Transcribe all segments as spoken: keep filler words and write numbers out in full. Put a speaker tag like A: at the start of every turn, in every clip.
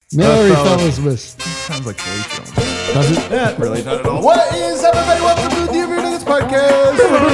A: Merry Fellasmas.
B: Sounds like Holyfield.
A: Does it?
B: Yeah, really not at all. What is up, everybody? Welcome to the Denver Nuggets podcast.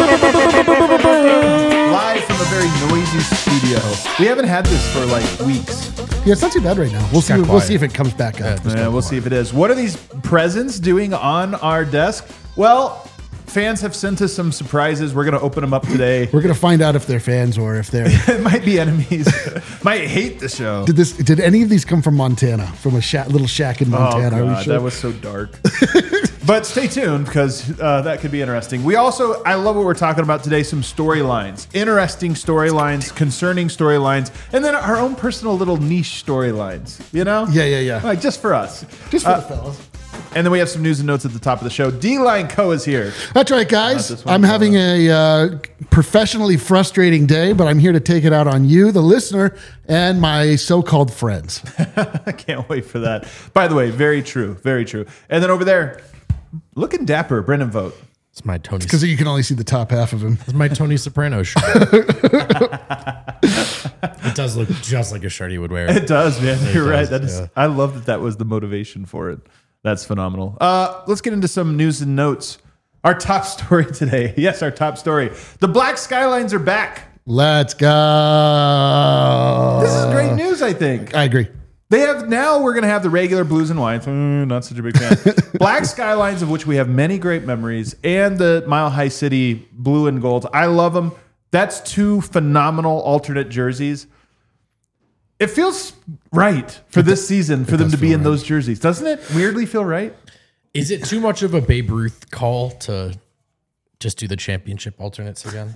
B: Live from a very noisy studio. We haven't had this for like weeks.
A: Yeah, it's not too bad right now. We'll see.
C: got
A: We'll
C: quiet.
A: see if it comes back up.
C: Yeah,
B: Yeah, we'll see if it is. What are these presents doing on our desk? Well, fans have sent us some surprises. We're going to open them up today.
A: We're gonna find out if they're fans or if they're.
B: It might be enemies. Might hate the show.
A: Did this? Did any of these come from Montana? From a sha- little shack in Montana?
B: Oh,
A: Are we
B: God,
A: sure?
B: that was so dark. But stay tuned because uh, that could be interesting. We also, I love what we're talking about today, some storylines, interesting storylines, concerning storylines, and then our own personal little niche storylines, you know?
A: Yeah, yeah, yeah.
B: Like just for us.
A: Just for
B: Uh,
A: the fellas.
B: And then we have some news and notes at the top of the show. D-Line Co. is here.
A: That's right, guys.
B: this one,
A: I'm having a uh, professionally frustrating day, but I'm here to take it out on you, the listener, and my so-called friends.
B: I can't wait for that. By the way, very true, very true. And then over there, looking dapper, Brendan Vogt.
C: It's my Tony.
A: Because you can only see the top half of him.
C: It's my Tony Soprano shirt. It does look just like a shirt he would wear.
B: It does, man.
C: It
B: You're
C: does,
B: right. That is.
C: yeah.
B: I love that. That was the motivation for it. That's phenomenal. Uh, let's get into some news and notes. Our top story today. Yes, our top story. The Black Skylines are back.
A: Let's go.
B: This is great news. I think
A: I agree.
B: they have now. We're going to have the regular blues and whites. Mm, not such a big fan. Black Skylines, of which we have many great memories, and the Mile High City blue and gold. I love them. That's two phenomenal alternate jerseys. It feels right for this season for them to be in those jerseys, doesn't it? Weirdly feel right.
C: Is it too much of a Babe Ruth call to just do the championship alternates again?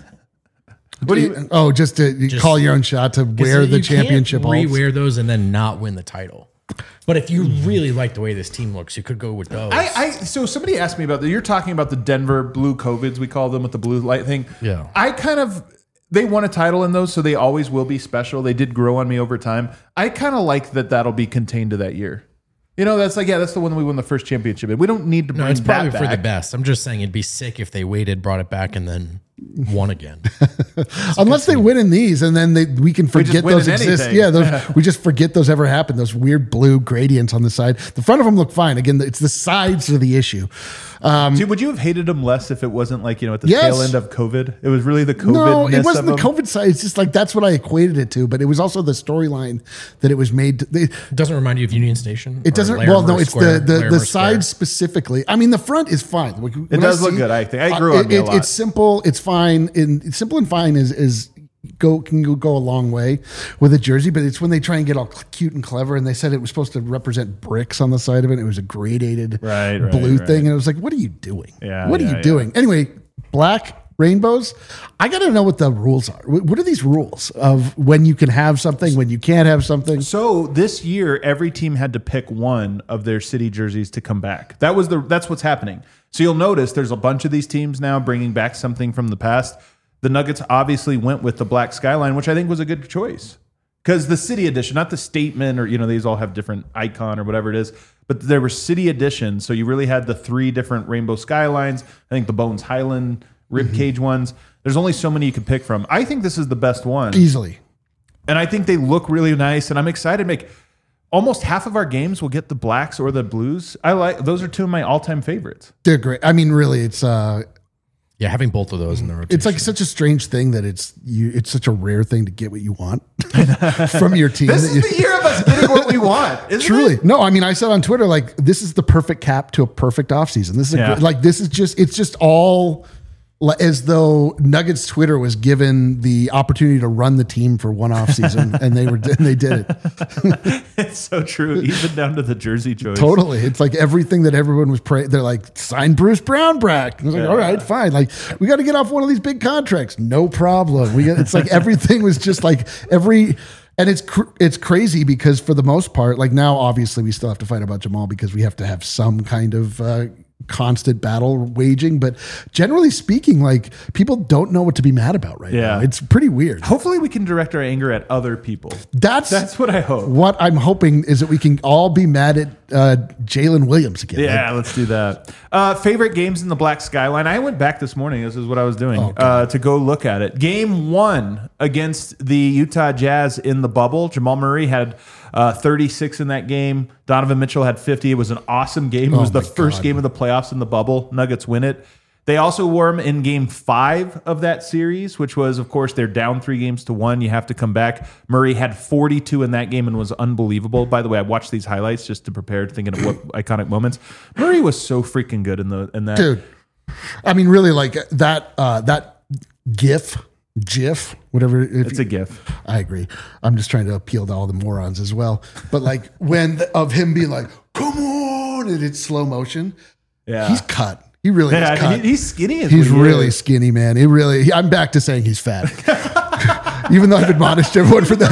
B: What do you?
A: Oh, just to
C: Just-
A: call your own shot to wear the
C: You
A: championship.
C: can't
A: alts.
C: rewear those and then not win the title. But if you really like the way this team looks, you could go with those.
B: I, I so somebody asked me about that. You're talking about the Denver Blue COVIDs, we call them, with the blue light thing.
C: Yeah.
B: I kind of they won a title in those, so they always will be special. They did grow on me over time. I kind of like that that'll be contained to that year. You know, that's like yeah, that's the one that we won the first championship in. We don't need to bring
C: no, it's probably
B: that
C: for the
B: back.
C: best. I'm just saying it'd be sick if they waited, brought it back, and then won again.
A: Unless they win in these, and then they, we can forget
B: win
A: those
B: in
A: exist.
B: anything.
A: Yeah, those, we just forget those ever happened. Those weird blue gradients on the side. The front of them look fine. Again, it's the sides of the issue. Um,
B: Dude, would you have hated them less if it wasn't like, you know, at the
A: Yes.
B: tail end of COVID? It was really the COVID.
A: no, it wasn't the
B: of
A: COVID side. It's just like that's what I equated it to. But it was also the storyline that it was made. To, they,
C: It doesn't remind you of Union Station?
A: it
C: Or
A: doesn't.
C: Larimer
A: Well, no, it's
C: Square-
A: the the,
C: Larimer
A: the
C: Square?
A: sides specifically. I mean, the front is fine. When
B: It does
A: I
B: look
A: see-
B: good, I think. I grew
A: uh,
B: on me a
A: it-
B: lot.
A: It's simple. It's fine. And simple and fine is is go can go, go a long way with a jersey. But it's when they try and get all cute and clever. And they said it was supposed to represent bricks on the side of it. It was a gradated
B: Right, right,
A: blue
B: right.
A: thing, and it was like, what are you doing?
B: Yeah,
A: what are
B: yeah,
A: you
B: yeah.
A: doing? Anyway, black rainbows. I got to know what the rules are. What what are these rules of when you can have something, when you can't have something?
B: So this year, every team had to pick one of their city jerseys to come back. That was the that's what's happening. So you'll notice there's a bunch of these teams now bringing back something from the past. The Nuggets obviously went with the Black Skyline, which I think was a good choice because the city edition, not the statement, or you know these all have different icon or whatever it is, but there were city editions. So you really had the three different rainbow skylines. I think the Bones Highland ribcage ones. There's only so many you could pick from. I think this is the best one.
A: Easily.
B: And I think they look really nice, and I'm excited to make almost half of our games will get the blacks or the blues. I like those are two of my all-time favorites.
A: They're great. I mean, really, it's uh,
C: Yeah, having both of those in the rotation.
A: it's like such a strange thing that it's you. It's such a rare thing to get what you want from your team.
B: This
A: that
B: is
A: you-
B: the year of us getting what we want. Isn't
A: Truly,
B: it?
A: no. I mean, I said on Twitter like this is the perfect cap to a perfect offseason. This is a
B: Yeah.
A: great, like this is just it's just all li- as though Nuggets Twitter was given the opportunity to run the team for one offseason, and they were and they did it.
B: It's so true, even down to the jersey choice.
A: Totally. It's like everything that everyone was praying. They're like, sign Bruce Brown back. I was like,
B: Yeah.
A: all right, fine. Like, we got to get off one of these big contracts. No problem. We got, it's like everything was just like every, and it's, cr- it's crazy because for the most part, like now, obviously we still have to fight about Jamal because we have to have some kind of, uh, constant battle waging, but generally speaking, like people don't know what to be mad about right
B: Yeah.
A: now. It's pretty weird.
B: Hopefully we can direct our anger at other people.
A: That's
B: That's what I hope.
A: what I'm hoping is that we can all be mad at uh, Jalen Williams again.
B: Yeah, let's do that. Uh, favorite games in the Black Skyline. I went back this morning. This is what I was doing
A: Oh,
B: uh, to go look at it. Game one against the Utah Jazz in the bubble. Jamal Murray had uh, thirty-six in that game. Donovan Mitchell had fifty. It was an awesome game. It
A: Oh
B: was the
A: my
B: first
A: God.
B: game of the playoffs in the bubble. Nuggets win it. They also were in game five of that series, which was, of course, they're down three games to one. You have to come back. Murray had forty-two in that game and was unbelievable. By the way, I watched these highlights just to prepare, thinking of what iconic moments. Murray was so freaking good in the in that.
A: Dude, I mean, really, like that, uh, that GIF, GIF, whatever. If
B: It's
A: you-
B: a GIF.
A: I agree. I'm just trying to appeal to all the morons as well. But like when the, of him being like, come on, and it's slow motion.
B: Yeah.
A: He's cut. He really
B: Yeah,
A: is cut.
B: he- he's skinny. As
A: He's
B: what he
A: really
B: is.
A: skinny, man. He really. He, I'm back to saying he's fat. Even though I've admonished everyone for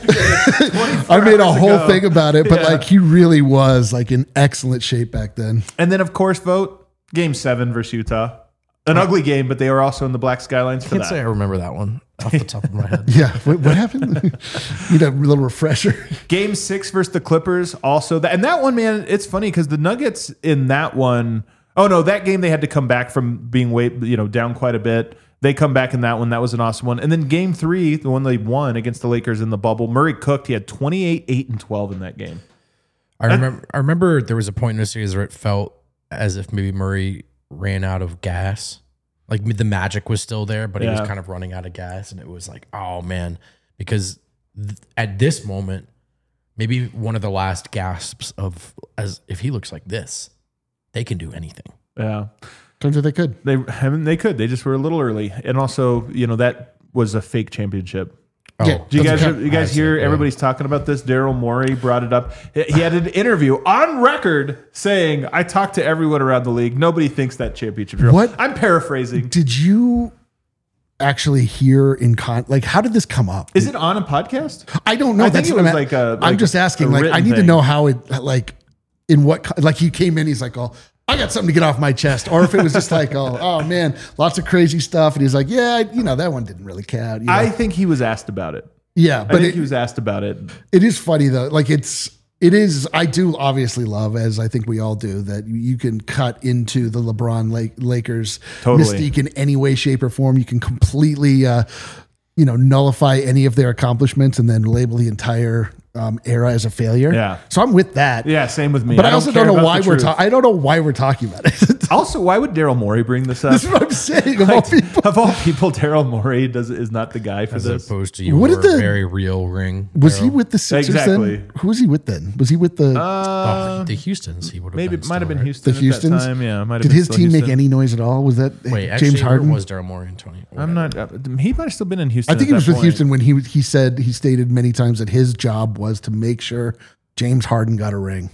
A: that, I made a
B: hours
A: whole
B: ago.
A: thing about it. But
B: Yeah.
A: like, he really was like in excellent shape back then.
B: And then, of course, vote game seven versus Utah. An ugly game, but they were also in the Black Skylines for
C: Can't
B: that.
C: say I remember that one off the top of my head.
A: Yeah. What, what happened? Need a little refresher.
B: Game six versus the Clippers, also that, and that one, man, it's funny because the Nuggets in that one, oh no, that game they had to come back from being way, you know, down quite a bit. They come back in that one. That was an awesome one. And then game three, the one they won against the Lakers in the bubble, Murray cooked. He had twenty-eight, eight, and twelve in that game.
C: I remember. I remember there was a point in the series where it felt as if maybe Murray ran out of gas. Like the magic was still there, but he was
B: Yeah.
C: kind of running out of gas, and it was like, oh man, because th- at this moment, maybe one of the last gasps of as if he looks like this, they can do anything.
B: Yeah.
A: Turns out they could.
B: They haven't, they could. They just were a little early. And also, you know, that was a fake championship.
C: Oh,
A: Yeah.
B: Do you guys,
A: Doesn't count.
B: you guys
C: I see,
B: hear
C: yeah.
B: everybody's talking about this? Daryl Morey brought it up. He had an interview on record saying, I talked to everyone around the league. Nobody thinks that championship. real."
A: What?
B: I'm paraphrasing.
A: Did you actually hear in con? Like, how did this come up?
B: Is it on a podcast?
A: I don't know.
B: I think
A: That's
B: it
A: what
B: was
A: I'm,
B: like a-
A: I'm
B: like
A: just asking.
B: a
A: Like, I
B: written
A: need to
B: thing.
A: know how it, like, in what, co- like, he came in, he's like, oh, I got something to get off my chest. Or if it was just like, oh, oh man, lots of crazy stuff. And he's like, yeah, you know, that one didn't really count. You know?
B: I think he was asked about it.
A: yeah,
B: I
A: but
B: think
A: it,
B: he was asked about it.
A: it is funny though. Like, it's, it is, I do obviously love, as I think we all do, that you- you can cut into the LeBron Lake, Lakers
B: Totally.
A: mystique in any way, shape, or form. You can completely, uh, you know, nullify any of their accomplishments and then label the entire um, era as a failure.
B: Yeah.
A: So I'm with that.
B: Yeah, same with me.
A: But I, also
B: care
A: don't know
B: about
A: why
B: the
A: we're
B: truth.
A: talking. I don't know why we're talking about it.
B: Also, why would Daryl Morey bring this up?
A: That's what I'm saying. Of all
B: Like,
A: people,
B: of all people, Daryl Morey does is not the guy for
C: As
B: this.
C: opposed to your
A: What did the-
C: very real ring.
A: was he
C: Daryl.
A: with the Sixers
B: Exactly.
A: then? Who was he with then? Was he with the?
B: Uh,
C: Oh, the Houstons? He would have
B: maybe
C: been
B: it might have
C: still,
B: been
C: right?
B: Houston.
A: The
B: at that
A: Houstons?
B: time. Yeah, might have
A: did
B: been
A: his
B: still
A: team make
B: Houston.
A: any noise at all? Was that
C: Wait,
A: James
C: actually,
A: Harden?
C: Harden was Daryl Morey in twenty.
B: I'm not. Uh, he might have still been in Houston.
A: I think
B: at
A: he was
B: that
A: with
B: point.
A: Houston when he he said he stated many times that his job was to make sure James Harden got a ring.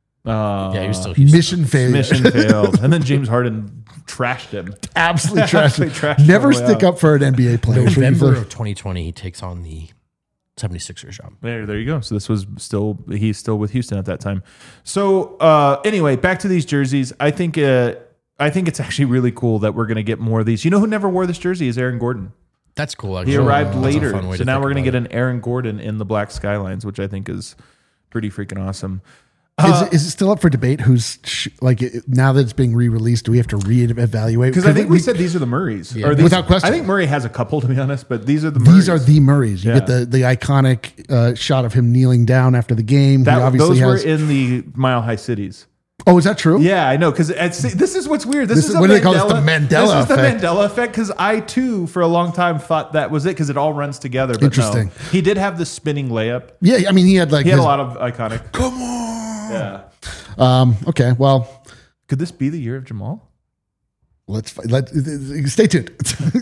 B: Uh,
C: Yeah, he was still Houston.
A: Mission failure.
B: mission failed, and then James Harden trashed him.
A: Absolutely trashed.
B: Absolutely trashed him
A: Never
B: all the way
A: stick
B: out.
A: up for an N B A player.
C: November of twenty twenty, he takes on the seventy-sixers job.
B: There, there you go. So this was still he's still with Houston at that time. So uh, anyway, back to these jerseys. I think uh, I think it's actually really cool that we're going to get more of these. You know who never wore this jersey is Aaron Gordon.
C: That's cool. Actually.
B: He arrived
C: That's a
B: later,
C: fun way
B: so
C: to
B: now
C: think
B: we're going to
C: about
B: get an Aaron Gordon in the Black Skylines, which I think is pretty freaking awesome.
A: Is it, is it still up for debate? Who's sh- like it, now that it's being re-released? Do we have to reevaluate?
B: Because I think we, said these are the Murrays.
C: Yeah.
B: Or these,
A: Without question.
B: I think Murray has a couple, to be honest, but these are the Murrays.
A: these are the Murrays. You
B: Yeah.
A: get the the iconic uh, shot of him kneeling down after the game.
B: that,
A: he obviously
B: those were
A: has.
B: in the Mile High Cities.
A: oh, is that true?
B: Yeah, I know. Because this is what's weird. This,
A: This
B: is
A: is-
B: a
A: what do they call this? The
B: Mandela-
A: Mandela
B: This is
A: effect.
B: the Mandela effect. Because I too, for a long time, thought that was it. Because it all runs together. But
A: Interesting.
B: No. He did have the spinning layup.
A: Yeah, I mean, he had like.
B: He had
A: his-
B: a lot of iconic.
A: Come on.
B: Yeah.
A: Um. Okay. Well,
B: Could this be the year of Jamal?
A: let's let stay tuned.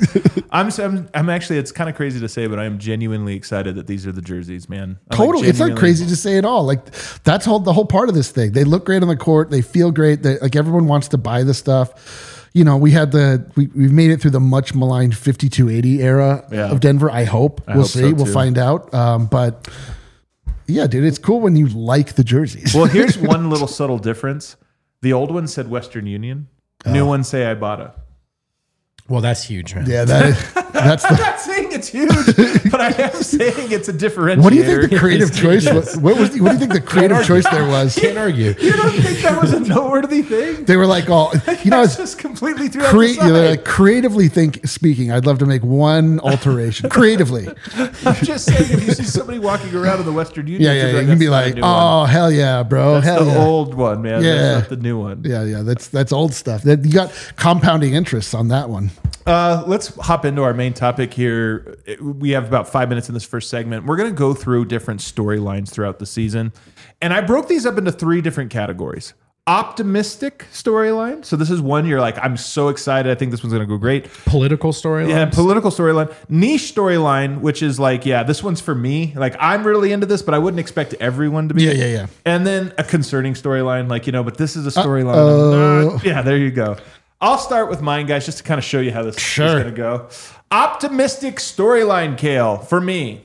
B: I'm, I'm, I'm actually. It's kind of crazy to say, but I am genuinely excited that these are the jerseys, man. I'm like
A: Totally. It's not
B: genuinely-
A: crazy to say at all. Like that's whole the whole part of this thing. They look great on the court. They feel great. They, like everyone wants to buy the stuff. You know, we had the we, we've made it through the much maligned fifty-two eighty era
B: Yeah.
A: of Denver. I hope.
B: I
A: we'll
B: hope
A: see.
B: so,
A: we'll
B: too.
A: find out. Um, but yeah, dude, it's cool when you like the jerseys.
B: Well, here's one little subtle difference. The old one said Western Union. New ones say Ibotta.
C: Well, that's huge, man.
A: yeah, that is, That's
B: I'm
A: the,
B: not saying it's huge, but I am saying it's a differentiator.
A: what do you think the creative
C: Yes,
A: choice
C: yes.
A: was? What was? The, what do you think the creative choice there was?
C: Can't argue.
B: You don't think that was a noteworthy thing?
A: They were like, "Oh, you know,
B: That's
A: it's
B: just completely threw out
A: cre-
B: the side.
A: they're like, creatively think speaking. I'd love to make one alteration creatively.
B: I'm just saying, if you see somebody walking around in the Western Union,
A: Yeah, yeah,
B: you'd
A: yeah. You can
B: "That's
A: be
B: not a
A: like,
B: new one."
A: oh hell yeah, bro,
B: That's
A: hell
B: the
A: yeah.
B: old one, man.
A: Yeah.
B: That's not the new one.
A: Yeah, yeah, that's that's old stuff. That you got compounding interests on that one.
B: Uh, let's hop into our main topic here. We have about five minutes in this first segment. We're going to go through different storylines throughout the season. And I broke these up into three different categories. Optimistic storyline. So this is one you're like, I'm so excited. I think this one's going to go great.
C: Political storyline.
B: Yeah, political storyline. Niche storyline, which is like, yeah, this one's for me. Like, I'm really into this, but I wouldn't expect everyone to be.
A: Yeah, yeah, yeah.
B: And then a concerning storyline, like, you know, but this is a storyline.
A: Uh-oh.
B: I'm not- Yeah, there you go. I'll start with mine, guys, just to kind of show you how this
A: Sure.
B: is going to go. Optimistic storyline, Kale, for me.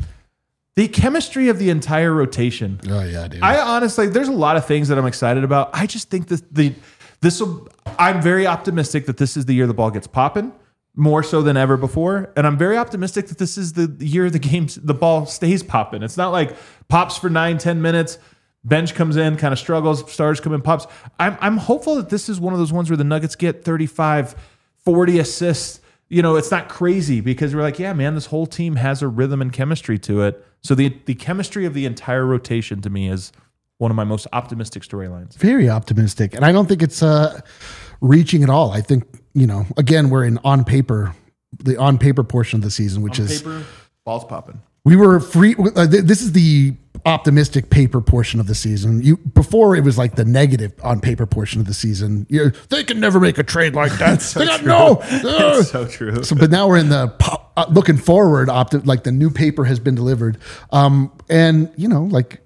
B: The chemistry of the entire rotation.
A: Oh yeah, dude.
B: I honestly, there's a lot of things that I'm excited about. I just think that the this will. I'm very optimistic that this is the year the ball gets popping more so than ever before, and I'm very optimistic that this is the year the games the ball stays popping. It's not like pops for nine, ten minutes. Bench comes in, kind of struggles. Stars come in, pops. I'm I'm hopeful that this is one of those ones where the Nuggets get thirty-five, forty assists. You know, it's not crazy because we're like, yeah, man, this whole team has a rhythm and chemistry to it. So the the chemistry of the entire rotation to me is one of my most optimistic storylines.
A: Very optimistic, and I don't think it's uh, reaching at all. I think you know, again, we're in on paper, the on paper portion of the season, which
B: On
A: is
B: paper, balls popping.
A: we were free. Uh, th- this is the optimistic paper portion of the season. You before it was like the negative on paper portion of the season. You're, they can never make a trade like that.
B: so
A: they got
B: true.
A: no.
B: That's so true.
A: So, but now we're in the po- uh, looking forward. Opti- like the new paper has been delivered, um, and you know, like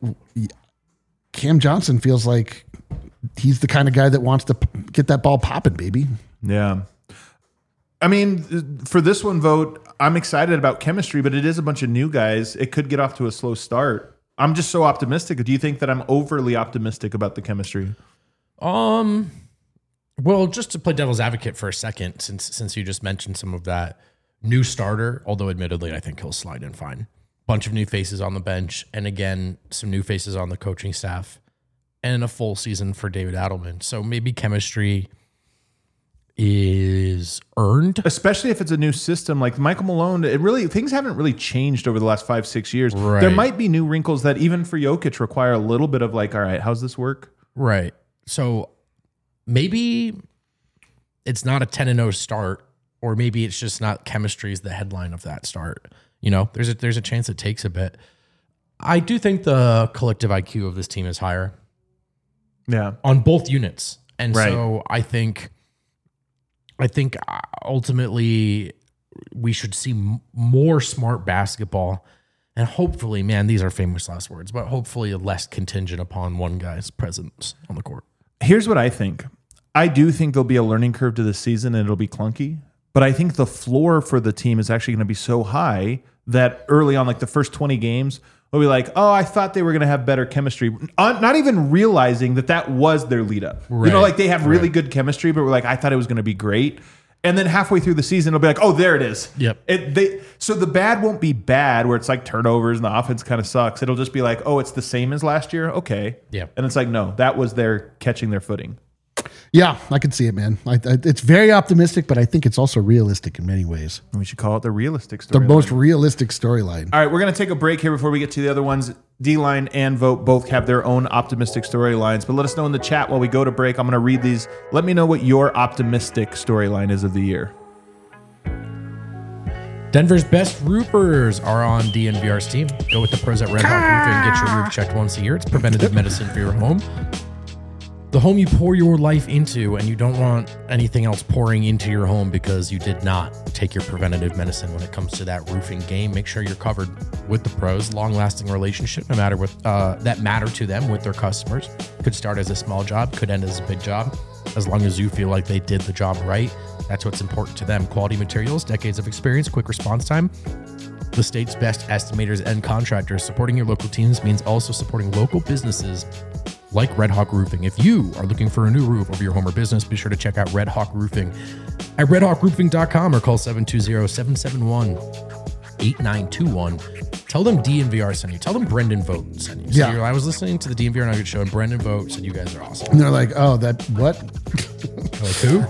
A: Cam Johnson feels like he's the kind of guy that wants to p- get that ball popping, baby.
B: Yeah. I mean, for this one vote, I'm excited about chemistry, but it is a bunch of new guys. It could get off to a slow start. I'm just so optimistic. Do you think that I'm overly optimistic about the chemistry?
C: Um, well, just to play devil's advocate for a second, since since you just mentioned some of that new starter, although admittedly I think he'll slide in fine. Bunch of new faces on the bench, and again some new faces on the coaching staff, and a full season for David Adelman. So maybe chemistry is earned.
B: Especially if it's a new system like Michael Malone. It really things haven't really changed over the last five, six years.
C: Right.
B: There might be new wrinkles that even for Jokic require a little bit of like, all right, how's this work?
C: Right. So maybe it's not a ten and oh start, or maybe it's just not chemistry is the headline of that start. You know, there's a there's a chance it takes a bit. I do think the collective I Q of this team is higher
B: Yeah.
C: on both units. And
B: Right.
C: so I think I think ultimately we should see m- more smart basketball, and hopefully, man, these are famous last words, but hopefully less contingent upon one guy's presence on the court.
B: Here's what I think. I do think there'll be a learning curve to this season and it'll be clunky, but I think the floor for the team is actually going to be so high that early on, like the first twenty games, we'll be like, oh, I thought they were going to have better chemistry. Uh, Not even realizing that that was their lead up. You know,
C: Right.
B: like they have really good chemistry, but we're like, I thought it was going to be great. And then halfway through the season, it'll be like, oh, there it is.
C: Yep.
B: It, they, so the bad won't be bad where it's like turnovers and the offense kind of sucks. It'll just be like, oh, it's the same as last year. Okay.
C: Yeah.
B: And it's like, no, that was their catching their footing.
A: Yeah, I can see it, man. I, I, it's very optimistic, but I think it's also realistic in many ways.
B: We should call it the realistic story.
A: The most realistic storyline.
B: All right, we're going to take a break here before we get to the other ones. D-Line and Vote both have their own optimistic storylines, but let us know in the chat while we go to break. I'm going to read these. Let me know what your optimistic storyline is of the year.
C: Denver's best roofers are on D N V R's team. Go with the pros at Red Hawk Roofing and get your roof checked once a year. It's preventative medicine for your home. The home you pour your life into, and you don't want anything else pouring into your home because you did not take your preventative medicine when it comes to that roofing game. Make sure you're covered with the pros. Long-lasting relationship, no matter what uh, that matter to them with their customers. Could start as a small job, could end as a big job. As long as you feel like they did the job right, that's what's important to them. Quality materials, decades of experience, quick response time. The state's best estimators and contractors. Supporting your local teams means also supporting local businesses like Red Hawk Roofing. If you are looking for a new roof over your home or business, be sure to check out Red Hawk Roofing at red hawk roofing dot com or call seven two zero, seven seven one, eight nine two one. Tell them D N V R sent you. Tell them Brendan Vogt sent you. So
A: Yeah.
C: you're- I was listening to the D N V R Nugget show, and Brendan Vogt said you guys are awesome.
A: And they're like, oh, that what?
C: Like who?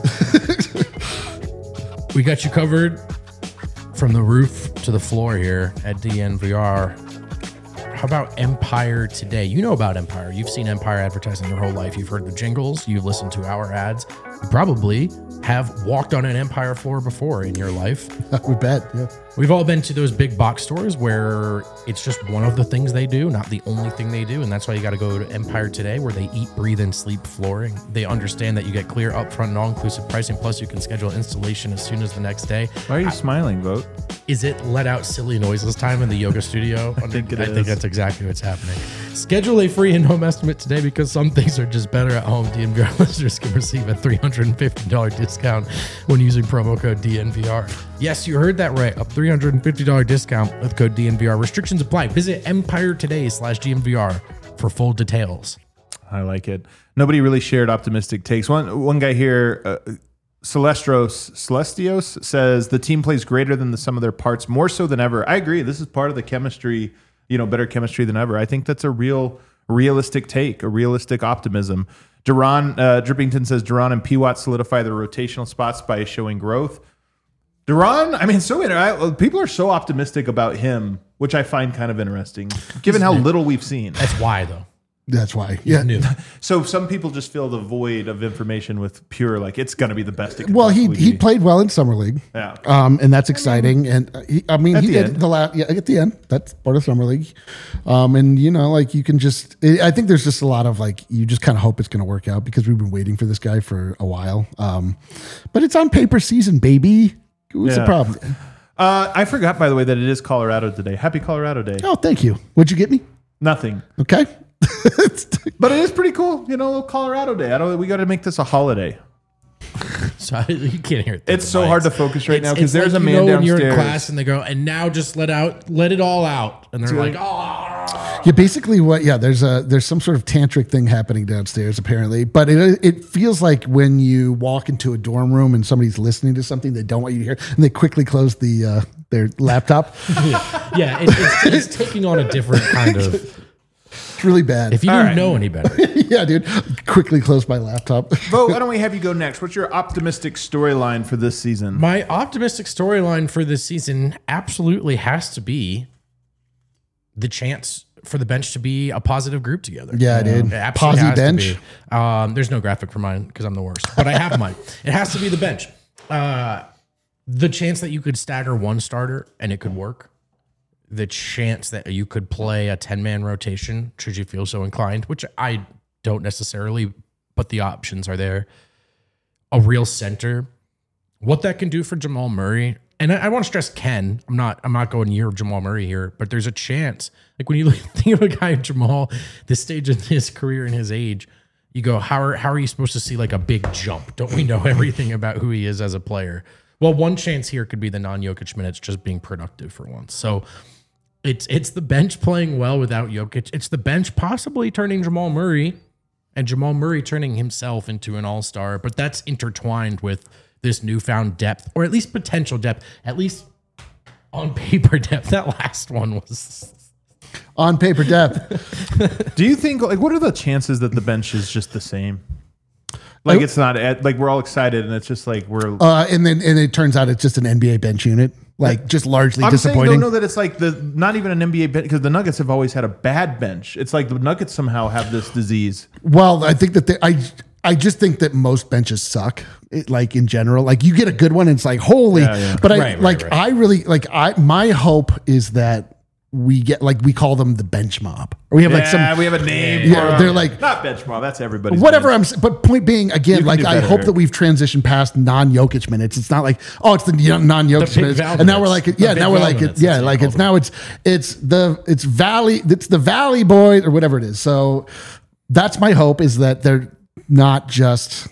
C: We got you covered from the roof to the floor here at D N V R. How about Empire Today? You know about Empire. You've seen Empire advertising your whole life. You've heard the jingles. You've listened to our ads. You probably have walked on an Empire floor before in your life.
A: We bet. Yeah.
C: We've all been to those big box stores where it's just one of the things they do, not the only thing they do. And that's why you got to go to Empire Today, where they eat, breathe, and sleep flooring. They understand that you get clear, upfront, all-inclusive pricing. Plus, you can schedule installation as soon as the next day.
B: Why are you smiling, Vogt?
C: Is it let out silly noises time in the yoga studio?
B: I think it
C: I
B: is.
C: think that's exactly what's happening. Schedule a free and home estimate today, because some things are just better at home. D N V R listeners can receive a three hundred fifty dollars discount when using promo code D N V R. Yes, you heard that right. A three hundred fifty dollars discount with code D N V R. Restrictions apply. Visit Empire Today slash D N V R for full details.
B: I like it. Nobody really shared optimistic takes. One one guy here, uh, Celestros Celestios, says the team plays greater than the sum of their parts, more so than ever. I agree. This is part of the chemistry, you know, better chemistry than ever. I think that's a real realistic take, a realistic optimism. Duran uh, Drippington says Duran and P. Watt solidify their rotational spots by showing growth. Duran, I mean, so I, people are so optimistic about him, which I find kind of interesting, given how little we've seen.
C: That's why, though.
A: That's why. Yeah.
C: New.
B: So some people just fill the void of information with pure, like, it's going to be the best it can
A: Well, he
B: possibly
A: he
B: be.
A: played well in summer league.
B: Yeah.
A: Um, and that's exciting. And uh, he, I mean,
B: At
A: he
B: the
A: did
B: end.
A: the last, yeah, at the end. That's part of summer league. Um, and you know, like you can just, I think there's just a lot of like, you just kind of hope it's going to work out, because we've been waiting for this guy for a while. Um, but it's on paper season, baby. What's the
B: Yeah.
A: problem?
B: Uh, I forgot, by the way, that it is Colorado today. Happy Colorado Day.
A: Oh, thank you. What'd you get me?
B: Nothing.
A: Okay.
B: But it is pretty cool. You know, a little Colorado Day. I don't. We got to make this a holiday.
C: So I, you can't hear it.
B: It's so hard to focus right now, because
C: It's
B: there's
C: like,
B: a
C: you
B: man
C: know, when you're in
B: downstairs.
C: class and they go, and now just let out, let it all out, and they're like,
B: like-
C: oh.
A: Yeah, basically what, yeah, there's a, there's some sort of tantric thing happening downstairs apparently, but it, it feels like when you walk into a dorm room and somebody's listening to something they don't want you to hear, and they quickly close the, uh, their laptop.
C: Yeah, it, it's, it's taking on a different kind of.
A: It's really bad.
C: If you
B: All
C: didn't
B: right.
C: know any better,
A: Yeah, dude. Quickly close my laptop.
B: Bo, why don't we have you go next? What's your optimistic storyline for this season?
C: my optimistic storyline for this season absolutely has to be the chance for the bench to be a positive group together.
A: Yeah, dude.
C: It absolutely
A: Posy
C: has
A: bench.
C: to be. Um, there's no graphic for mine because I'm the worst, but I have mine. It has to be the bench. Uh, the chance that you could stagger one starter and it could work. The chance that you could play a ten-man rotation, should you feel so inclined, which I don't necessarily, but the options are there. A real center. What that can do for Jamal Murray. And I, I want to stress Ken. I'm not I'm not going year of Jamal Murray here, but there's a chance. Like when you look, think of a guy Jamal, this stage in his career and his age, you go, how are how are you supposed to see like a big jump? Don't we know everything about who he is as a player? Well, one chance here could be the non-Jokic minutes just being productive for once. So it's it's the bench playing well without Jokic. It's the bench possibly turning Jamal Murray and Jamal Murray turning himself into an all-star, but that's intertwined with this newfound depth, or at least potential depth, at least on paper depth. That last one was
A: On paper depth.
B: Do you think, like, what are the chances that the bench is just the same? Like, it's not, at, like, we're all excited and it's just like, we're.
A: Uh, and then and it turns out it's just an N B A bench unit. Like just largely
B: I'm saying,
A: disappointing.
B: don't know that it's like the, not even an N B A bench, because the Nuggets have always had a bad bench. It's like the Nuggets somehow have this disease.
A: Well, I think that they, I I just think that most benches suck. It, like in general, like you get a good one, and it's like holy.
B: Yeah, yeah.
A: But I
C: Right, right,
A: like
C: right.
A: I really like I my hope is that we get like we call them the bench mob, or we have like
B: yeah,
A: some
B: we have a name.
A: Yeah,
B: for 'em.
A: they're like-
B: not bench mob. That's everybody's
A: whatever
B: name.
A: I'm. s- But point being, again,
B: can
A: like
B: do
A: I
B: better
A: hope
B: here.
A: that we've transitioned past non-Jokic minutes. It's not like oh, it's the non-Jokic
C: big
A: minutes,
C: Val
A: and now we're
C: minutes.
A: like
C: The
A: yeah,
C: big
A: now we're
C: Val
A: like it,
C: minutes,
A: yeah,
C: that's what
A: like
C: you
A: it's
C: call
A: now it's it's the it's Valley it's the Valley Boys or whatever it is. So that's my hope, is that they're not just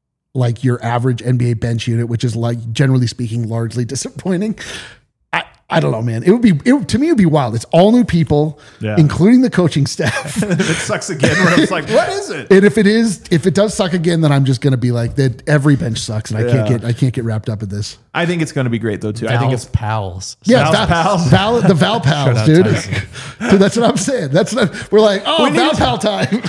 A: like your average N B A bench unit, which is like generally speaking largely disappointing. I I don't know, man. It would be it, to me. It would be wild. It's all new people,
B: Yeah.
A: including the coaching staff.
B: If it sucks again, where it's like, what is it?
A: And if it is, if it does suck again, then I'm just going to be like that. Every bench sucks, and I can't
B: Yeah.
A: get I can't get wrapped up in this.
B: I think it's going to be great though too. I think
C: Val's
B: it's
C: pals.
A: Yeah,
B: Val's
A: Val,
B: pals.
A: Val, the Val pals,
C: out
A: dude.
C: Tyson.
A: Dude, that's what I'm saying. That's what we're like. Oh,
B: We
A: Val
B: need-
A: pal time.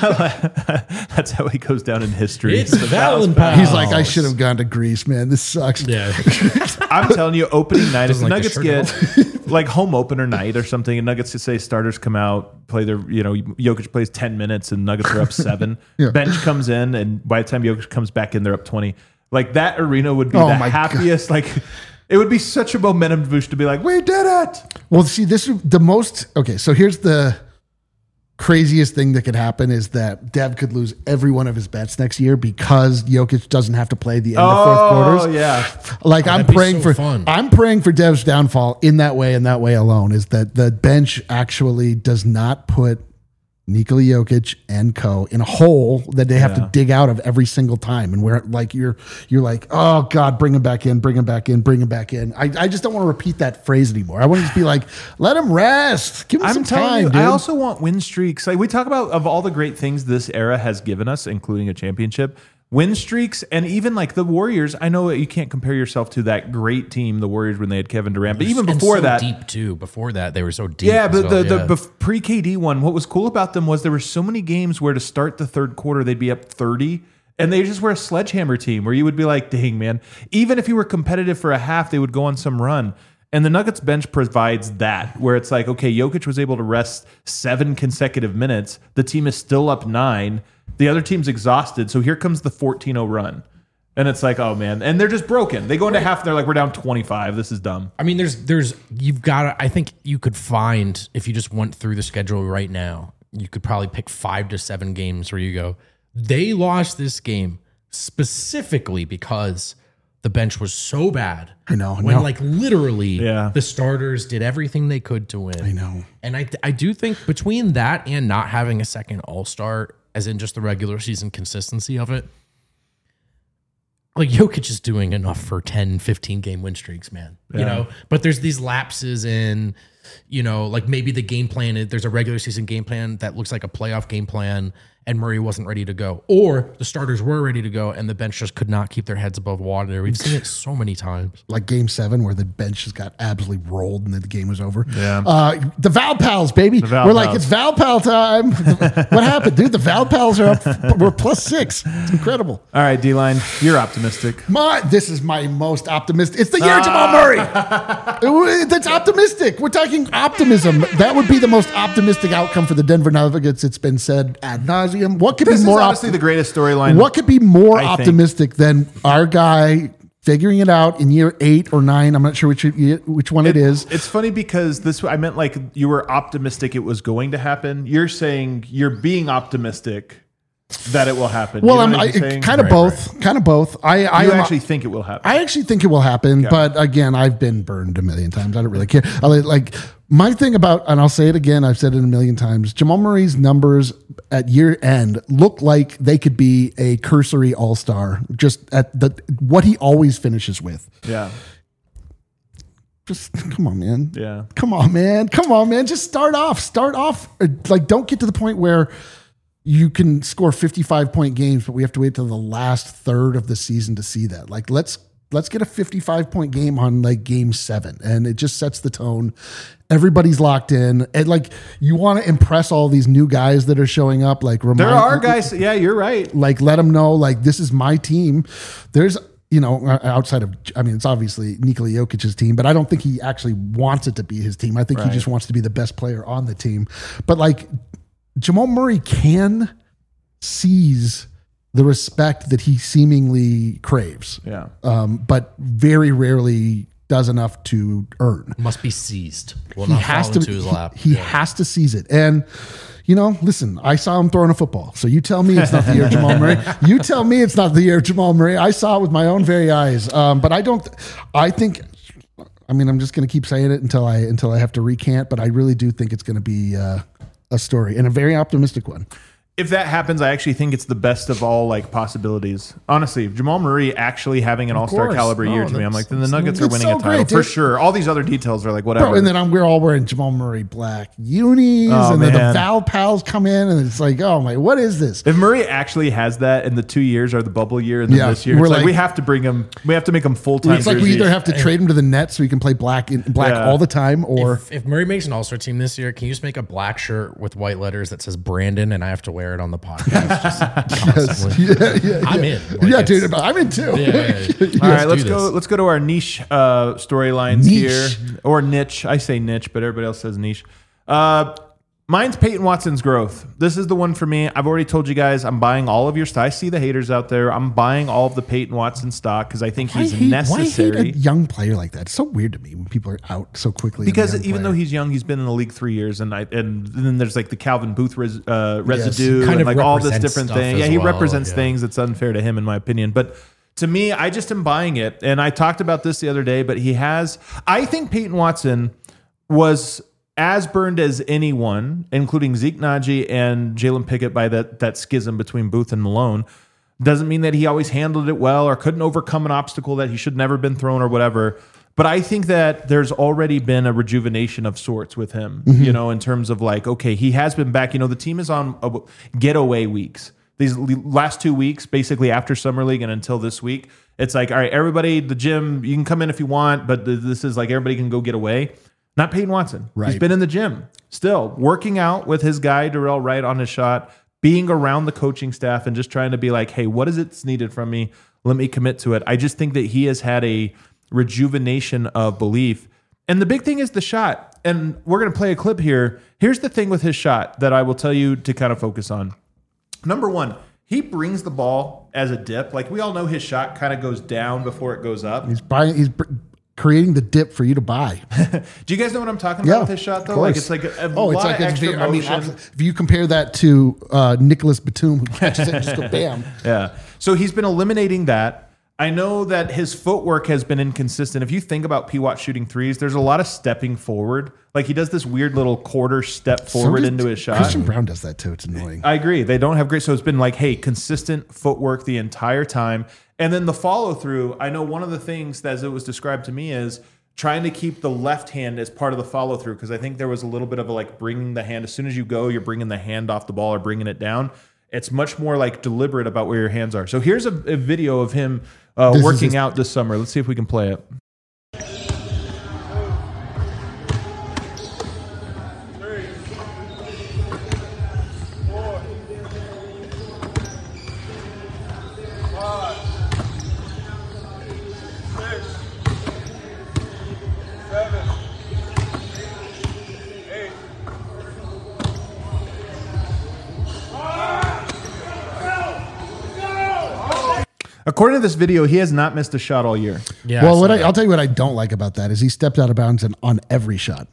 B: that's how he goes down in history.
C: It's Val and pals.
A: He's like, I should have gone to Greece, man. This sucks.
C: Yeah.
B: I'm telling you, opening night, if the
C: Doesn't like the
B: Nuggets
C: shirt
B: get like home opener night or something, and Nuggets to say starters come out, play their, you know, Jokic plays ten minutes and Nuggets are up seven.
A: Yeah.
B: Bench comes in, and by the time Jokic comes back in, they're up twenty. Like that arena would be
A: Oh
B: the
A: my God.
B: happiest. Like it would be such a momentum boost to be like, we did it.
A: Well, see, this is the most. Okay, so here's the craziest thing that could happen is that Dev could lose every one of his bets next year because Jokic doesn't have to play the end of fourth
B: Oh
A: quarters.
B: yeah,
A: Like I'm
C: that'd be
A: praying
C: so
A: for
C: fun.
A: I'm praying for Dev's downfall in that way and that way alone is that the bench actually does not put Nikola Jokic and co in a hole that they have
B: Yeah.
A: to dig out of every single time. And where like you're you're like, oh God, bring him back in, bring him back in, bring him back in. I, I just don't want to repeat that phrase anymore. I want to just be like, let him rest. Give him
B: I'm
A: some
B: telling
A: time,
B: you,
A: dude.
B: I also want win streaks. Like we talk about of all the great things this era has given us, including a championship, win streaks, and even like the Warriors. I know you can't compare yourself to that great team, the Warriors, when they had Kevin Durant, but even
C: And
B: before
C: so
B: that,
C: deep too. Before that, they were so deep.
B: yeah,
C: as
B: but
C: well,
B: the,
C: yeah.
B: the bef- pre-K D one, what was cool about them was there were so many games where to start the third quarter, they'd be up thirty, and they just were a sledgehammer team where you would be like, dang, man. Even if you were competitive for a half, they would go on some run. And the Nuggets bench provides that, where it's like, okay, Jokic was able to rest seven consecutive minutes. The team is still up nine. The other team's exhausted. So here comes the fourteen oh run. And it's like, oh, man. And they're just broken. They go into half and they're like, we're down twenty-five. This is dumb.
C: I mean, there's, there's, you've got to, I think you could find, if you just went through the schedule right now, you could probably pick five to seven games where you go, they lost this game specifically because the bench was so bad.
A: I know,
C: When
A: no.
C: like literally
B: Yeah.
C: the starters did everything they could to win.
A: I know.
C: And I, I do think between that and not having a second all-star, as in just the regular season consistency of it, like Jokic is doing enough for ten, fifteen game win streaks, man. You
B: Yeah.
C: know, but there's these lapses in, you know, like maybe the game plan, there's a regular season game plan that looks like a playoff game plan and Murray wasn't ready to go. Or the starters were ready to go and the bench just could not keep their heads above water. We've seen it so many times.
A: Like game seven where the bench just got absolutely rolled and then the game was over.
B: Yeah.
A: Uh, the Val Pals, baby.
B: Val
A: We're like,
B: Pals.
A: it's Val Pal time. What happened, dude? The Val Pals are up. We're plus six. It's incredible.
B: All right, D-Line, you're optimistic.
A: My, this is my most optimistic. It's the year of Jamal Murray. It- That's optimistic. We're talking optimism. That would be the most optimistic outcome for the Denver Nuggets. It's been said ad nauseum. What could
B: This
A: be
B: is
A: more
B: honestly
A: optimistic?
B: the greatest storyline.
A: What could be more
B: I think.
A: optimistic than our guy figuring it out in year eight or nine? I'm not sure which which one it is.
B: It's funny because this, I meant like you were optimistic it was going to happen. You're saying you're being optimistic that it will happen.
A: Well,
B: You
A: I'm
B: know what
A: I,
B: I'm saying?
A: kind of
C: Right,
A: both. Kind of both. I, I
B: You
A: am-
B: actually think it will happen.
A: I actually think it will happen, but again, I've been burned a million times. I don't really care. I like, like my thing about, and I'll say it again, I've said it a million times. Jamal Murray's numbers at year end look like they could be a cursory all star, just at the what he always finishes with.
B: yeah.
A: Just come on, man.
B: Yeah.
A: Come on, man. Come on, man. Just start off. Start off. Uh, Like, don't get to the point where you can score fifty-five point games, but we have to wait till the last third of the season to see that. Like, let's let's get a fifty-five point game on like game seven, and it just sets the tone. Everybody's locked in, and like you want to impress all these new guys that are showing up. Like, remind,
B: There are guys. Yeah, you're right.
A: like let them know like this is my team. There's you know outside of I mean it's obviously Nikola Jokic's team, but I don't think he actually wants it to be his team. I think he
B: Right.
A: just wants to be the best player on the team. But like Jamal Murray can seize the respect that he seemingly craves,
B: Yeah.
A: um, but very rarely does enough to earn.
C: Must be seized. Will
A: He
C: not
A: has
C: fall
A: to.
C: into his lap.
A: He, he
C: Yeah.
A: has to seize it. And you know, listen, I saw him throwing a football. So you tell me it's not the year of Jamal Murray. You tell me it's not the year of Jamal Murray. I saw it with my own very eyes. Um, but I don't. I think. I mean, I'm just going to keep saying it until I until I have to recant. But I really do think it's going to be uh, a story and a very optimistic one.
B: if that happens, I actually think it's the best of all like possibilities. Honestly, Jamal Murray actually having an all-star
C: course.
B: caliber
C: No,
B: year to me, I'm like, then the Nuggets are
A: it's
B: winning
A: so
B: a title
A: great,
B: for
A: dude.
B: sure. All these other details are like whatever.
A: Bro, and then I'm, we're all wearing Jamal Murray black unis,
B: Oh,
A: and then the
B: man.
A: Val pals come in, and it's like, oh my, what is this?
B: if Murray actually has that, and the two years are the bubble year, and then
A: Yeah,
B: this year,
A: we're
B: it's like,
A: like-
B: we have to bring him. We have to make him full time.
A: It's like we either have to trade him to the Nets so he can play black in, black
B: Yeah.
A: all the time, or
C: If, if Murray makes an All Star team this year, can you just make a black shirt with white letters that says Brandon, and I have to wear it on the podcast? Just constantly.
A: yeah, yeah,
C: I'm
A: yeah.
C: in. Like,
A: yeah,
C: it's-
A: dude, I'm in too.
C: Yeah, yeah, yeah.
B: All right,
C: do
B: let's
C: this.
B: go. Let's go to our niche uh, storylines
A: Niche.
B: here, or niche. I say niche, but everybody else says niche. Uh, mine's Peyton Watson's growth. This is the one for me. I've already told you guys I'm buying all of your stock. I see the haters out there. I'm buying all of the Peyton Watson stock because I think he's
A: I hate,
B: necessary.
A: Why hate a young player like that? It's so weird to me when people are out so quickly.
B: Because
A: in a young
B: even though
A: player.
B: he's young, he's been in the league three years, and I and then there's like the Calvin Booth res, uh, residue,
C: Kind
B: and
C: of
B: like all this
C: represents
B: different
C: stuff
B: thing.
C: as
B: Yeah, he
C: well,
B: represents
C: yeah.
B: things that's unfair to him, in my opinion. But to me, I just am buying it, and I talked about this the other day. But he has, I think Peyton Watson was as burned as anyone, including Zeke Naji and Jalen Pickett, by that that schism between Booth and Malone. Doesn't mean that he always handled it well or couldn't overcome an obstacle that he should never been thrown or whatever. But I think that there's already been a rejuvenation of sorts with him, you know, in terms of like, okay, he has been back. You know, the team is on a getaway weeks. These last two weeks, basically after Summer League and until this week, it's like, all right, everybody, the gym, you can come in if you want, but th- this is like everybody can go get away. Not Peyton Watson.
A: Right.
B: He's been in the gym still, working out with his guy, Darrell Wright, on his shot, being around the coaching staff and just trying to be like, hey, what is it needed from me? Let me commit to it. I just think that he has had a rejuvenation of belief. And the big thing is the shot. And we're going to play a clip here. Here's the thing with his shot that I will tell you to kind of focus on. Number one, he brings the ball as a dip. Like we all know his shot kind of goes down before it goes up.
A: he's buying, he's br- creating the dip for you to buy.
B: Do you guys know what I'm talking
A: Yeah,
B: about with his shot though?
A: of
B: Like
A: course.
B: it's like a, a
A: Oh,
B: lot
A: it's like
B: of
A: a
B: extra
A: very- I mean,
B: motion.
A: if you compare that to uh, Nicholas Batum, who catches it and just go bam.
B: Yeah. So he's been eliminating that. I know that his footwork has been inconsistent. If you think about P. Watt shooting threes, there's a lot of stepping forward. Like he does this weird little quarter step forward
A: So does-
B: into his shot.
A: Christian Brown does that too. It's annoying.
B: I agree. They don't have great. So it's been like, hey, consistent footwork the entire time. And then the follow through. I know one of the things that, as it was described to me, is trying to keep the left hand as part of the follow through. Because I think there was a little bit of a like bringing the hand. As soon as you go, you're bringing the hand off the ball or bringing it down. It's much more like deliberate about where your hands are. So here's a, a video of him uh,
A: This is
B: working
A: his-
B: out this summer. Let's see if we can play it. According to this video, he has not missed a shot all year.
C: Yeah.
A: well,
C: I
A: what
C: saw
A: I,
C: that.
A: I'll tell you what I don't like about that is he stepped out of bounds and on every shot,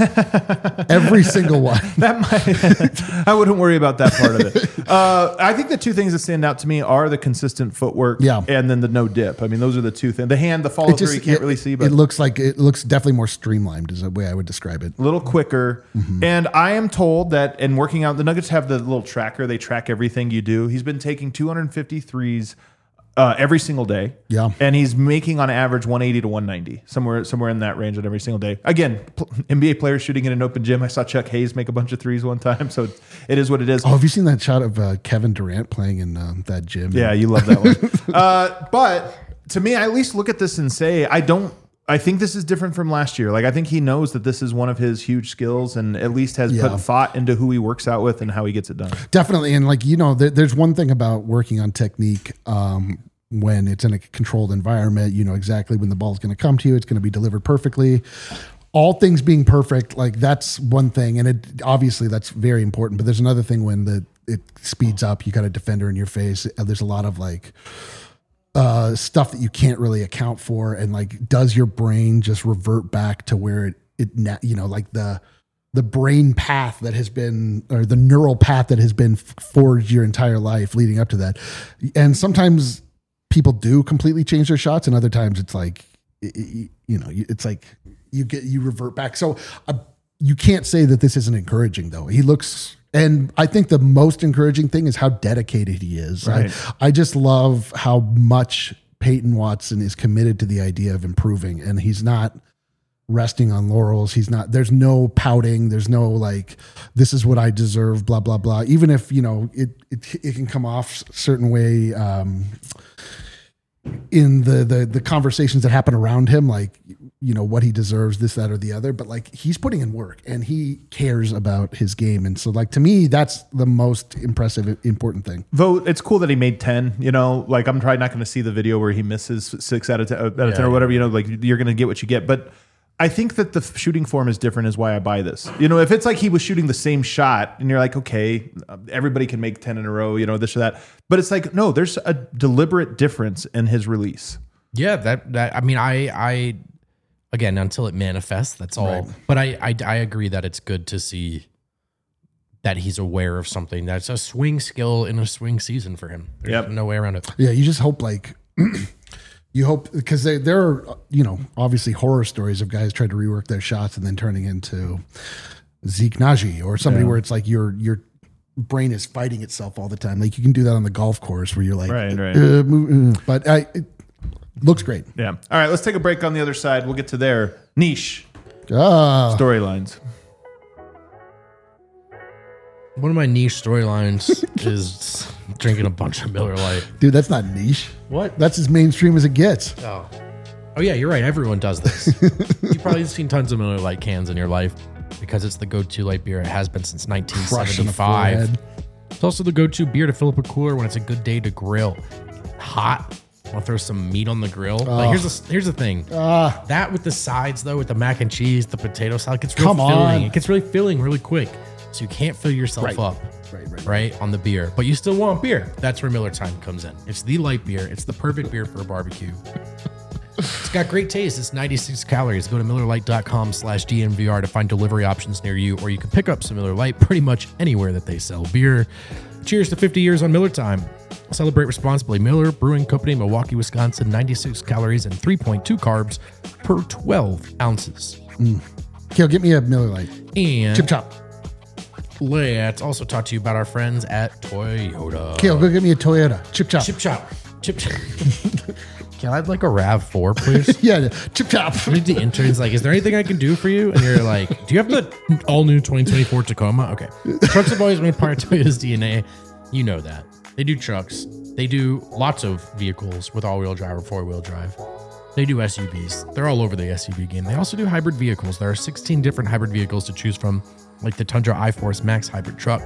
A: every single one.
B: That might, I wouldn't worry about that part of it. Uh, I think the two things that stand out to me are the consistent footwork,
A: Yeah.
B: and then the no dip. I mean, those are the two things. The hand, the follow
A: It
B: through,
A: just
B: you can't
A: it,
B: really see, but
A: it looks like it looks definitely more streamlined is the way I would describe it.
B: a little quicker.
A: Mm-hmm.
B: And I am told that in working out, the Nuggets have the little tracker. They track everything you do. He's been taking two hundred fifty threes uh, every single day.
A: Yeah.
B: And he's making on average one eighty to one ninety, somewhere somewhere in that range on every single day. Again, pl- N B A players shooting in an open gym. I saw Chuck Hayes make a bunch of threes one time. So it's, it is what it is.
A: Oh, have you seen that shot of uh, Kevin Durant playing in um, that gym?
B: Yeah, you love that one. uh, but to me, I at least look at this and say, I don't, I think this is different from last year. Like, I think he knows that this is one of his huge skills and at least has
A: Yeah.
B: put thought into who he works out with and how he gets it done.
A: Definitely. And like, you know, there, there's one thing about working on technique um, when it's in a controlled environment, you know exactly when the ball is going to come to you. It's going to be delivered perfectly. All things being perfect, like that's one thing. And it obviously that's very important. But there's another thing when the it speeds up, you got a defender in your face. There's a lot of like uh, stuff that you can't really account for. And like, does your brain just revert back to where it, it na- you know, like the, the brain path that has been, or the neural path that has been forged your entire life leading up to that. And sometimes people do completely change their shots, and other times it's like, it- it- you know, it's like you get, you revert back. So uh, you can't say that this isn't encouraging though. He looks And I think the most encouraging thing is how dedicated he is.
B: Right.
A: I, I just love how much Peyton Watson is committed to the idea of improving, and he's not resting on laurels. He's not, there's no pouting. There's no like, this is what I deserve, blah, blah, blah. Even if, you know, it, it, it can come off a certain way, um, in the, the, the conversations that happen around him, like, you know, what he deserves, this, that, or the other, but like he's putting in work and he cares about his game. And so like, to me, that's the most impressive, important thing.
B: Vote. It's cool that he made ten, you know, like I'm probably not going to see the video where he misses six out of ten, out of ten
C: Yeah,
B: or whatever, you know, like you're going to get what you get. But I think that the shooting form is different is why I buy this. You know, if it's like he was shooting the same shot and you're like, okay, everybody can make ten in a row, you know, this or that. But it's like, no, there's a deliberate difference in his release.
C: Yeah, that that I mean, I I again until it manifests, that's all.
A: Right.
C: But I, I I agree that it's good to see that he's aware of something that's a swing skill in a swing season for him. There's
B: Yep.
C: no way around it.
A: Yeah. You just hope like, you hope, because there, there are, you know, obviously horror stories of guys trying to rework their shots and then turning into Zeke Naji or somebody
B: Yeah.
A: where it's like your your brain is fighting itself all the time. Like you can do that on the golf course where you're like,
B: Right, right.
A: Uh, move, uh, but I, it looks great.
B: Yeah. All right, let's take a break on the other side. We'll get to their niche
A: Ah,
B: storylines.
C: One of my niche storylines is drinking a bunch of Miller Lite.
A: dude, that's not niche.
C: What?
A: That's as mainstream as it gets.
C: Oh. Oh yeah, you're right. Everyone does this. You've probably seen tons of Miller Lite cans in your life because it's the go-to light beer. It has been since nineteen
A: Crush in the
C: seventy-five.
A: forehead.
C: It's also the go-to beer to fill up a cooler when it's a good day to grill. Hot. Want to throw some meat on the grill? Like here's the here's the thing.
A: Ah,
C: That with the sides though, with the mac and cheese, the potato salad, it gets real
A: Come
C: filling.
A: on.
C: It gets really filling really quick. So you can't fill yourself
A: Right.
C: up.
A: right, right.
C: Right on the beer, but you still want beer. That's where Miller Time comes in. It's the light beer. It's the perfect beer for a barbecue. It's got great taste. It's ninety-six calories. Go to MillerLite.com slash DNVR to find delivery options near you, or you can pick up some Miller Lite pretty much anywhere that they sell beer. Cheers to fifty years on Miller Time. Celebrate responsibly. Miller Brewing Company, Milwaukee, Wisconsin. ninety-six calories and three point two carbs per twelve ounces.
A: Kale, get me a Miller Lite.
C: And
A: Chip chop.
C: let's also talk to you about our friends at Toyota.
A: Kale, go get me a Toyota. Chip chop.
C: Chip chop. Chip chop. Can I have like a RAV four, please?
A: Yeah, chip chop.
C: I need the interns like, is there anything I can do for you? And you're like, do you have the all new twenty twenty-four Tacoma? Okay. Trucks have always been part of Toyota's D N A. You know that. They do trucks. They do lots of vehicles with all-wheel drive or four-wheel drive. They do S U Vs. They're all over the S U V game. They also do hybrid vehicles. There are sixteen different hybrid vehicles to choose from, like the Tundra iForce Max hybrid truck.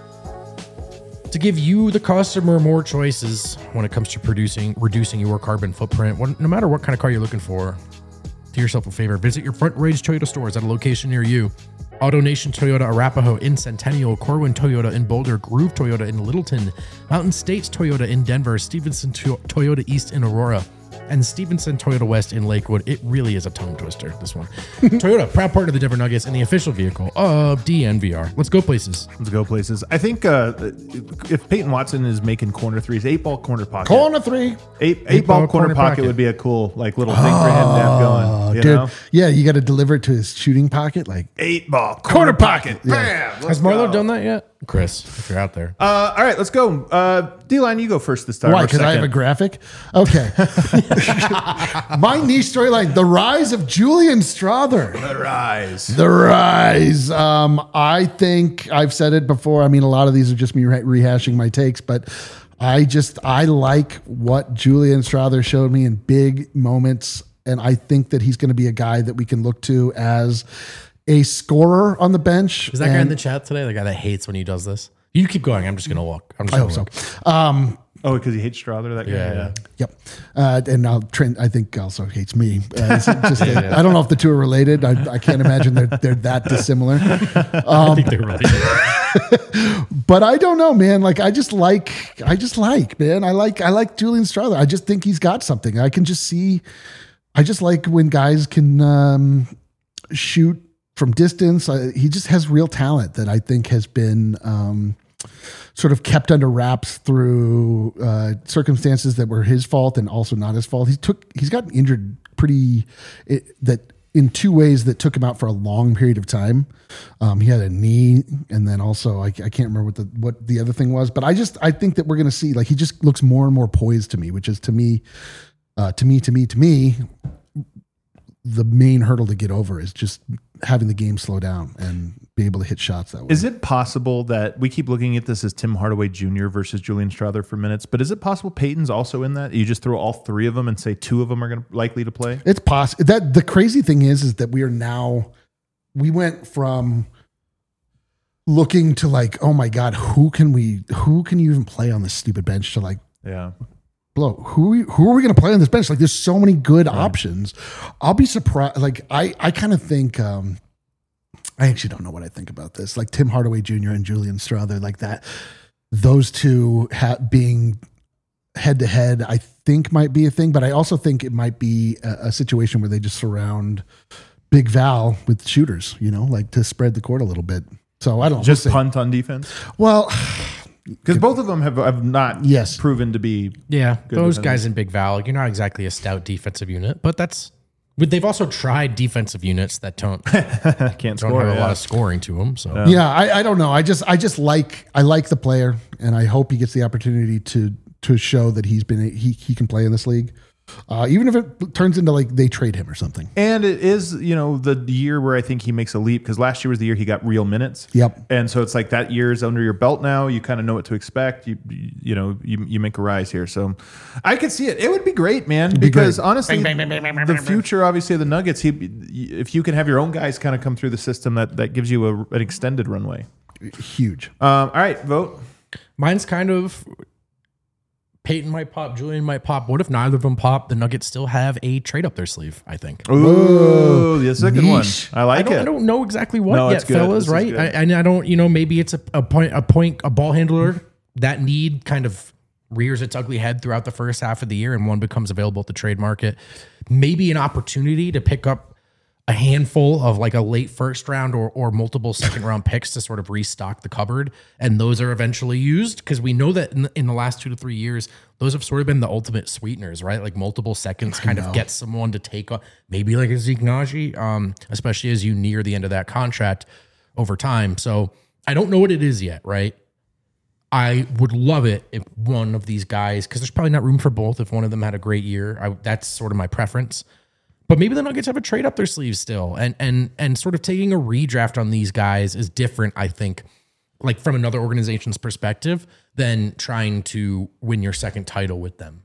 C: To give you, the customer, more choices when it comes to producing, reducing your carbon footprint, when, no matter what kind of car you're looking for, do yourself a favor. Visit your Front Range Toyota stores at a location near you. AutoNation Toyota Arapahoe in Centennial, Corwin Toyota in Boulder, Groove Toyota in Littleton, Mountain States Toyota in Denver, Stevenson to- Toyota East in Aurora, and Stevenson Toyota West in Lakewood. It really is a tongue twister, this one. Toyota, proud partner of the Denver Nuggets and the official vehicle of D N V R. Let's go places.
B: Let's go places. I think uh, if Peyton Watson is making corner threes, eight ball corner pocket.
A: Corner three.
B: Eight, eight ball, corner, pocket, would be a cool like little thing for him to have going. You
A: Dude,
B: know?
A: yeah, you got to deliver it to his shooting pocket. Like,
B: Eight ball corner, pocket. Bam. Let's
C: Has Marlo
B: go.
C: done that yet? Chris, if you're out there.
B: Uh, all right, let's go. Uh, D-line, you go first this time.
A: why?
B: or
A: Because I have a
B: second.
A: graphic? Okay. My niche storyline, the rise of Julian Strother.
B: The rise.
A: The rise. Um, I think I've said it before. I mean, a lot of these are just me re- rehashing my takes, but I just, I like what Julian Strother showed me in big moments. And I think that he's going to be a guy that we can look to as a scorer on the bench.
C: Is that guy in
A: And
C: the chat today? The guy that hates when he does this? You keep going. I'm just going to walk. I'm just
A: I
C: going
A: hope
C: to
A: so.
C: walk.
A: Um,
B: Oh, because he hates Strother, that guy?
C: Yeah, yeah.
A: Yep. Uh, and now Trent, I think, also hates me. Uh, it's just that- I don't know if the two are related. I, I can't imagine they're, they're that dissimilar.
C: I think they're really
A: But I don't know, man. Like, I just like, I just like, man. I like, I like Julian Strother. I just think he's got something. I can just see, I just like when guys can um, shoot from distance. I, he just has real talent that I think has been um, sort of kept under wraps through uh, circumstances that were his fault and also not his fault. He took, he's gotten injured pretty, it, that in two ways that took him out for a long period of time. Um, he had a knee, and then also I, I can't remember what the what the other thing was. But I just I think that we're going to see, like, he just looks more and more poised to me, which is to me, uh, to me, to me, to me, the main hurdle to get over is just having the game slow down and be able to hit shots that way.
B: Is it possible that we keep looking at this as Tim Hardaway Junior versus Julian Strawther for minutes, but is it possible Peyton's also in that? You just throw all three of them and say two of them are going to likely to play?
A: It's possible. That the crazy thing is, is that we are now, we went from looking to like, oh my God, who can we, who can you even play on this stupid bench to like,
B: yeah.
A: blow, who, who are we going to play on this bench? Like, there's so many good right. options. I'll be surprised. Like, I, I kind of think, um, I actually don't know what I think about this. Like Tim Hardaway Junior and Julian Strawther, like that, those two ha- being head to head, I think might be a thing, but I also think it might be a, a situation where they just surround Big Val with shooters, you know, like to spread the court a little bit. So I don't know.
B: Just punt on defense.
A: Well,
B: because both of them have, have not
A: yes.
B: proven to be.
C: Yeah. Those
B: defenders.
C: guys in Big Val, you're not exactly a stout defensive unit, but that's, but they've also tried defensive units that don't
B: can't
C: don't
B: score,
C: have
B: yeah.
C: a lot of scoring to them. So
B: Yeah.
A: yeah, I, I don't know. I just I just like I like the player, and I hope he gets the opportunity to to show that he's been he he can play in this league. Uh, even if it turns into like they trade him or something.
B: And it is, you know, the year where I think he makes a leap, because last year was the year he got real minutes.
A: Yep.
B: And so it's like that year is under your belt now. You kind of know what to expect. You you know, you, you make a rise here. So I could see it. It would be great, man,
A: be
B: because
A: great.
B: honestly, the future, obviously, of the Nuggets, he, if you can have your own guys kind of come through the system, that, that gives you a, an extended runway.
A: Huge.
B: Um, all right, vote.
C: mine's kind of Peyton might pop, Julian might pop. What if neither of them pop? The Nuggets still have a trade up their sleeve, I think.
B: Ooh, that's a good one.
A: Yeesh.
B: I like
C: I don't,
B: it.
C: I don't know exactly what
B: No,
C: yet,
B: it's good.
C: fellas,
B: This is
C: right?
B: good.
C: I, and I don't, you know, maybe it's a, a point, a point, a ball handler. That need kind of rears its ugly head throughout the first half of the year, and one becomes available at the trade market. Maybe an opportunity to pick up a handful of like a late first round or or multiple second round picks to sort of restock the cupboard, and those are eventually used, because we know that in, in the last two to three years, those have sort of been the ultimate sweeteners, right? Like multiple seconds kind of get someone to take on, maybe like a Zeke Naji, um, especially as you near the end of that contract over time. So I don't know what it is yet, right? I would love it if one of these guys, because there's probably not room for both. If one of them had a great year, I, that's sort of my preference. But maybe the Nuggets have a trade up their sleeves still, and and and sort of taking a redraft on these guys is different, I think, like from another organization's perspective, than trying to win your second title with them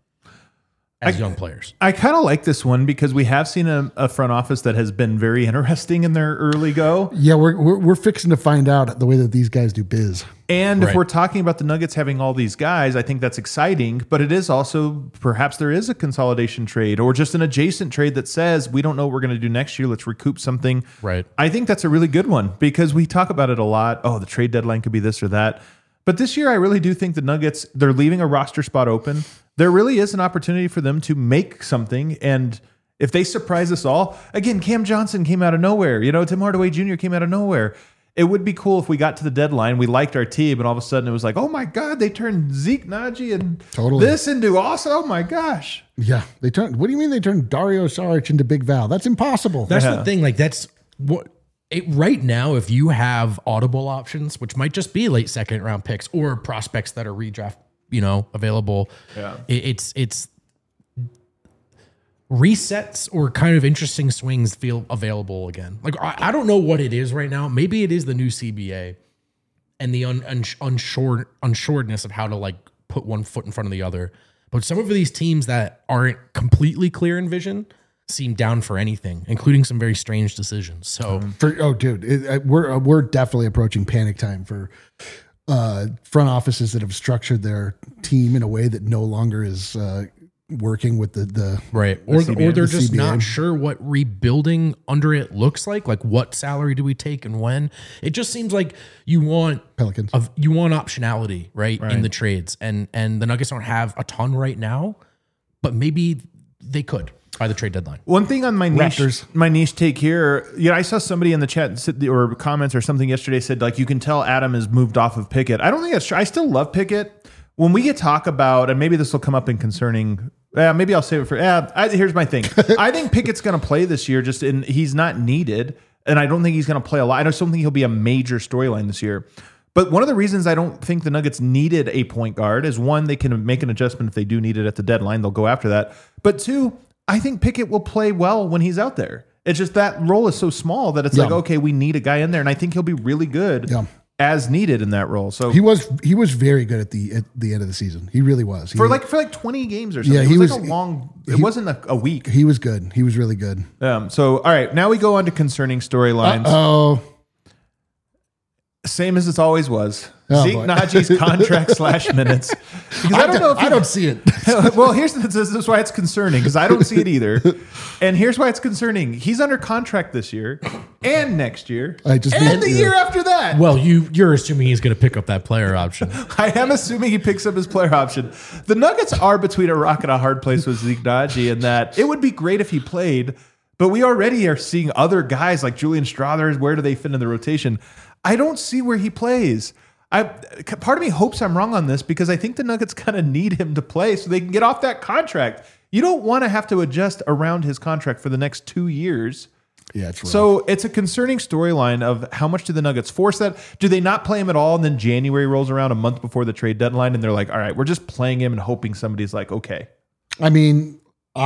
C: as
B: I,
C: young players.
B: I kind of like this one because we have seen a, a front office that has been very interesting in their early go.
A: Yeah, we're, we're we're fixing to find out the way that these guys do biz.
B: And
C: Right.
B: if we're talking about the Nuggets having all these guys, I think that's exciting, but it is also perhaps there is a consolidation trade or just an adjacent trade that says we don't know what we're going to do next year. Let's recoup something.
C: Right.
B: I think that's a really good one because we talk about it a lot. Oh, the trade deadline could be this or that. But this year, I really do think the Nuggets, they're leaving a roster spot open. There really is an opportunity for them to make something. And if they surprise us all, again, Cam Johnson came out of nowhere. You know, Tim Hardaway Junior came out of nowhere. It would be cool if we got to the deadline, we liked our team, and all of a sudden it was like, oh my God, they turned Zeke Naji and
A: Totally.
B: this into awesome. Oh my gosh.
A: Yeah, they turned. What do you mean they turned Dario Saric into Big Val? That's impossible.
C: That's
B: Yeah.
C: the thing. Like that's what it, right now, if you have audible options, which might just be late second round picks or prospects that are redraft, you know, available.
B: Yeah.
C: It, it's, it's resets or kind of interesting swings feel available again. Like, I, I don't know what it is right now. Maybe it is the new C B A and the un, un, unsure, unsuredness of how to like put one foot in front of the other. But some of these teams that aren't completely clear in vision seem down for anything, including some very strange decisions. So
A: For, oh, dude, it, uh, we're uh, we're definitely approaching panic time for uh, front offices that have structured their team in a way that no longer is uh, working with the the
C: right, or
B: C B A,
C: or they're
A: the
C: just
A: C B A.
C: not sure what rebuilding under it looks like. Like, what salary do we take and when? It just seems like you want
A: Pelicans.
C: of you want optionality, right,
B: Right.
C: in the trades, and and the Nuggets don't have a ton right now, but maybe they could by the trade deadline.
B: One thing on my niche,
A: Raptors.
B: my niche take here, you know, I saw somebody in the chat sit- or comments or something yesterday said like you can tell Adam has moved off of Pickett. I don't think that's true. I still love Pickett. When we get talk about, and maybe this will come up in concerning Yeah, maybe I'll save it for. Yeah, I, here's my thing. I think Pickett's going to play this year. Just in, he's not needed, and I don't think he's going to play a lot. I just don't think he'll be a major storyline this year. But one of the reasons I don't think the Nuggets needed a point guard is one, they can make an adjustment if they do need it at the deadline. They'll go after that. But two, I think Pickett will play well when he's out there. It's just that role is so small that it's
A: Yeah.
B: like, okay, we need a guy in there, and I think he'll be really good.
A: Yeah.
B: As needed in that role. So
A: He was he was very good at the at the end of the season. He really was. He,
B: for like for like twenty games or something.
A: Yeah,
B: it
A: he
B: was,
A: was-
B: like a long it
A: he-
B: wasn't a, a week.
A: he was good. He was really good.
B: Um so all right, now we go on to concerning storylines.
A: Oh,
B: Same as it always was.
A: Oh,
B: Zeke
A: boy.
B: Najee's contract slash minutes. Because I, don't know if
A: I
B: you-
A: don't see it.
B: well, here's this is why it's concerning because I don't see it either. And here's why it's concerning. He's under contract this year and next year
A: I just
B: and
A: mean-
B: the
A: yeah.
B: year after that.
C: Well, you you're assuming he's going to pick up that player option.
B: I am assuming he picks up his player option. The Nuggets are between a rock and a hard place with Zeke Naji in that it would be great if he played, but we already are seeing other guys like Julian Strother. Where do they fit in the rotation? I don't see where he plays. I part of me hopes I'm wrong on this because I think the Nuggets kind of need him to play so they can get off that contract. You don't want to have to adjust around his contract for the next two years.
A: Yeah, it's rough.
B: So it's a concerning storyline of how much do the Nuggets force that? Do they not play him at all? And then January rolls around a month before the trade deadline and they're like, all right, we're just playing him and hoping somebody's like, okay.
A: I mean,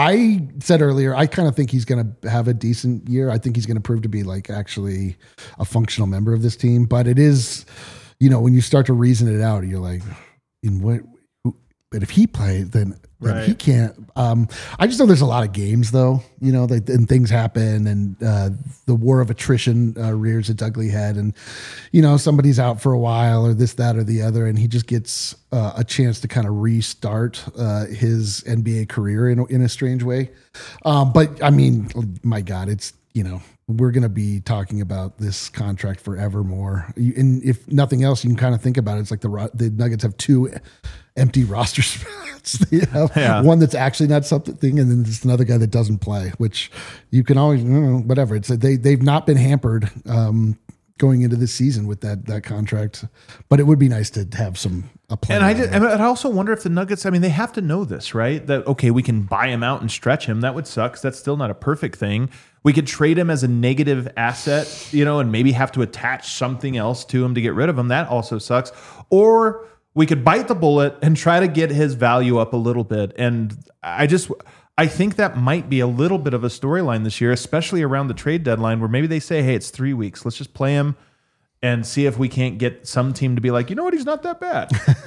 A: I said earlier, I kind of think he's going to have a decent year. I think he's going to prove to be like actually a functional member of this team. But it is, you know, when you start to reason it out, you're like, in what? who- But if he plays, then, then
B: Right.
A: he can't. Um, I just know there's a lot of games though, you know, that and things happen, and uh, the war of attrition uh, rears its ugly head, and you know somebody's out for a while, or this, that, or the other, and he just gets uh, a chance to kind of restart uh, his N B A career in a, in a strange way. Um, but I mean, my God, it's you know. We're going to be talking about this contract forevermore. You- And if nothing else, you can kind of think about it. It's like the Ro- the Nuggets have two empty roster spots. They have
B: Yeah.
A: one that's actually not something, and then there's another guy that doesn't play, which you can always, you know, whatever. It's they they've not been hampered um, going into this season with that that contract, but it would be nice to have some a play.
B: And I, just, and I also wonder if the Nuggets, I mean, they have to know this, right? That, okay, we can buy him out and stretch him. That would suck. 'Cause that's still not a perfect thing. We could trade him as a negative asset, you know, and maybe have to attach something else to him to get rid of him. That also sucks. Or we could bite the bullet and try to get his value up a little bit. And I just, I think that might be a little bit of a storyline this year, especially around the trade deadline where maybe they say, hey, it's three weeks. Let's just play him and see if we can't get some team to be like, you know what, he's not that bad.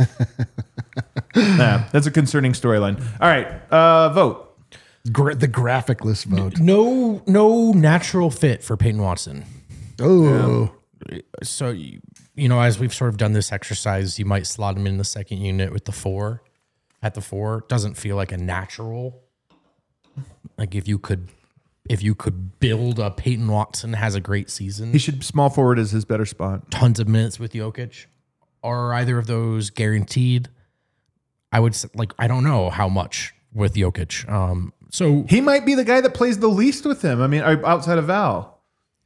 B: Nah, that's a concerning storyline. All right, uh, vote.
A: Gra- the graphicless vote.
C: No, no natural fit for Peyton Watson.
A: Oh,
C: So, you you know, as we've sort of done this exercise, you might slot him in the second unit with the four. At the four, doesn't feel like a natural. Like if you could, if you could build a Peyton Watson has a great season,
B: He should small forward is his better spot.
C: tons of minutes with Jokic. Are either of those guaranteed? I would s- like. I don't know how much with Jokic. Um, so
B: He might be the guy that plays the least with him. I mean, outside of Val.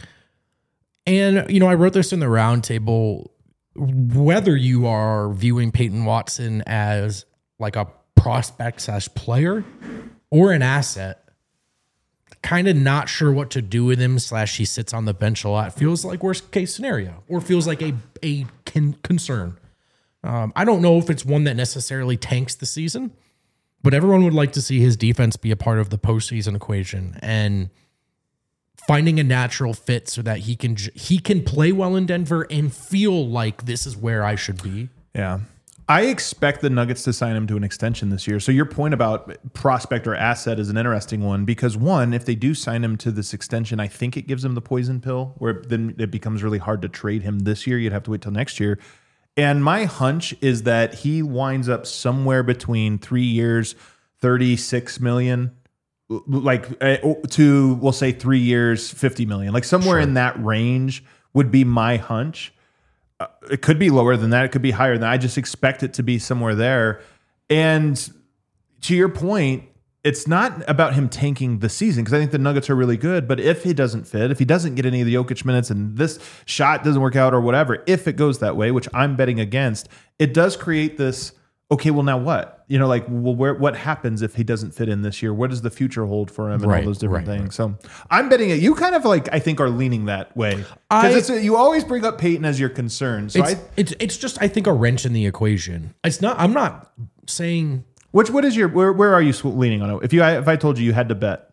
C: And, you know, I wrote this in the roundtable. Whether you are viewing Peyton Watson as like a prospect slash player or an asset, kind of not sure what to do with him, slash he sits on the bench a lot, feels like worst case scenario or feels like a, a con- concern. Um, I don't know if it's one that necessarily tanks the season, but everyone would like to see his defense be a part of the postseason equation. And finding a natural fit so that he can j- he can play well in Denver and feel like this is where I should be.
B: Yeah. I expect the Nuggets to sign him to an extension this year. So your point about prospect or asset is an interesting one because one, if they do sign him to this extension, I think it gives them the poison pill where then it becomes really hard to trade him this year. You'd have to wait till next year. And my hunch is that he winds up somewhere between three years, thirty-six million, like uh, to, we'll say three years, fifty million, like somewhere
C: Sure.
B: in that range would be my hunch. Uh, it could be lower than that. It could be higher than that. I just expect it to be somewhere there. And to your point, it's not about him tanking the season because I think the Nuggets are really good. But if he doesn't fit, if he doesn't get any of the Jokic minutes and this shot doesn't work out or whatever, if it goes that way, which I'm betting against, it does create this, okay, well now what? You know, like, well, where what happens if he doesn't fit in this year? What does the future hold for him, and
C: Right,
B: all those different
C: right,
B: things? So I'm betting it. You kind of like, I think, are leaning that way
C: I-
B: because it's you always bring up Peyton as your concern. So
C: It's,
B: I,
C: it's it's just I think a wrench in the equation. It's not. I'm not saying.
B: which what is your where where are you sw- leaning on it? If you if I told you you had to bet,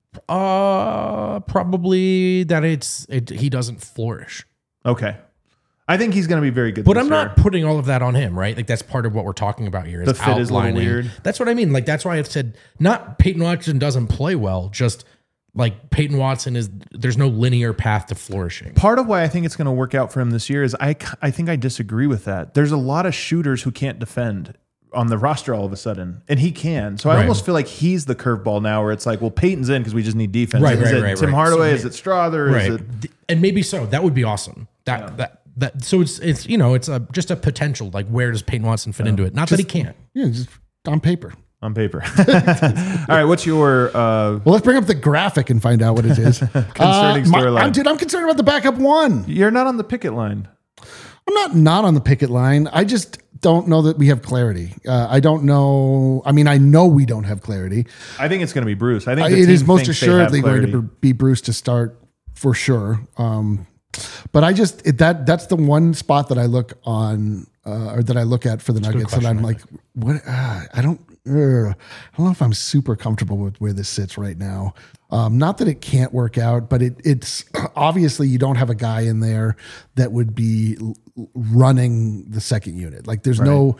C: Uh, probably that it's it. He doesn't flourish.
B: okay, I think he's going to be very good.
C: But
B: this
C: I'm
B: year.
C: not putting all of that on him, right? Like that's part of what we're talking about here. Is
B: The fit is a little
C: outlining-
B: weird.
C: That's what I mean. Like that's why I've said not Peyton Watson doesn't play well. Just like Peyton Watson is. There's no linear path to flourishing.
B: Part of why I think it's going to work out for him this year is I, I think I disagree with that. There's a lot of shooters who can't defend on the roster all of a sudden, and he can. So I
C: Right.
B: almost feel like he's the curveball now where it's like, well, Peyton's in because we just need defense.
C: Right,
B: is
C: right,
B: it
C: right,
B: Tim
C: right.
B: Hardaway?
C: So
B: is it Strother?
C: Right.
B: Is it,
C: And maybe so. That would be awesome. That that that. So it's it's you know it's a just a potential. Like where does Peyton Watson fit into it? Not that he can't.
A: Yeah, just on paper.
B: on paper? All right, what's your uh,
A: Well, let's bring up the graphic and find out what it is. Concerning
B: storyline.
A: I'm, dude, I'm concerned about the backup one.
B: you're not on the picket line.
A: I'm not not on the picket line. I just don't know that we have clarity. Uh, I don't know. I mean, I know we don't have clarity.
B: I think it's going to be Bruce. I think
A: I-
B: the
A: it
B: team
A: is most
B: thinks they have
A: assuredly going to
B: clarity.
A: be Bruce to start for sure. Um, but I just it, that that's the one spot that I look on uh, or that I look at for the Nuggets, and I'm like, what? Uh, I don't. Uh, I don't know if I'm super comfortable with where this sits right now. Um, not that it can't work out, but it, it's obviously you don't have a guy in there that would be l- running the second unit. Like there's no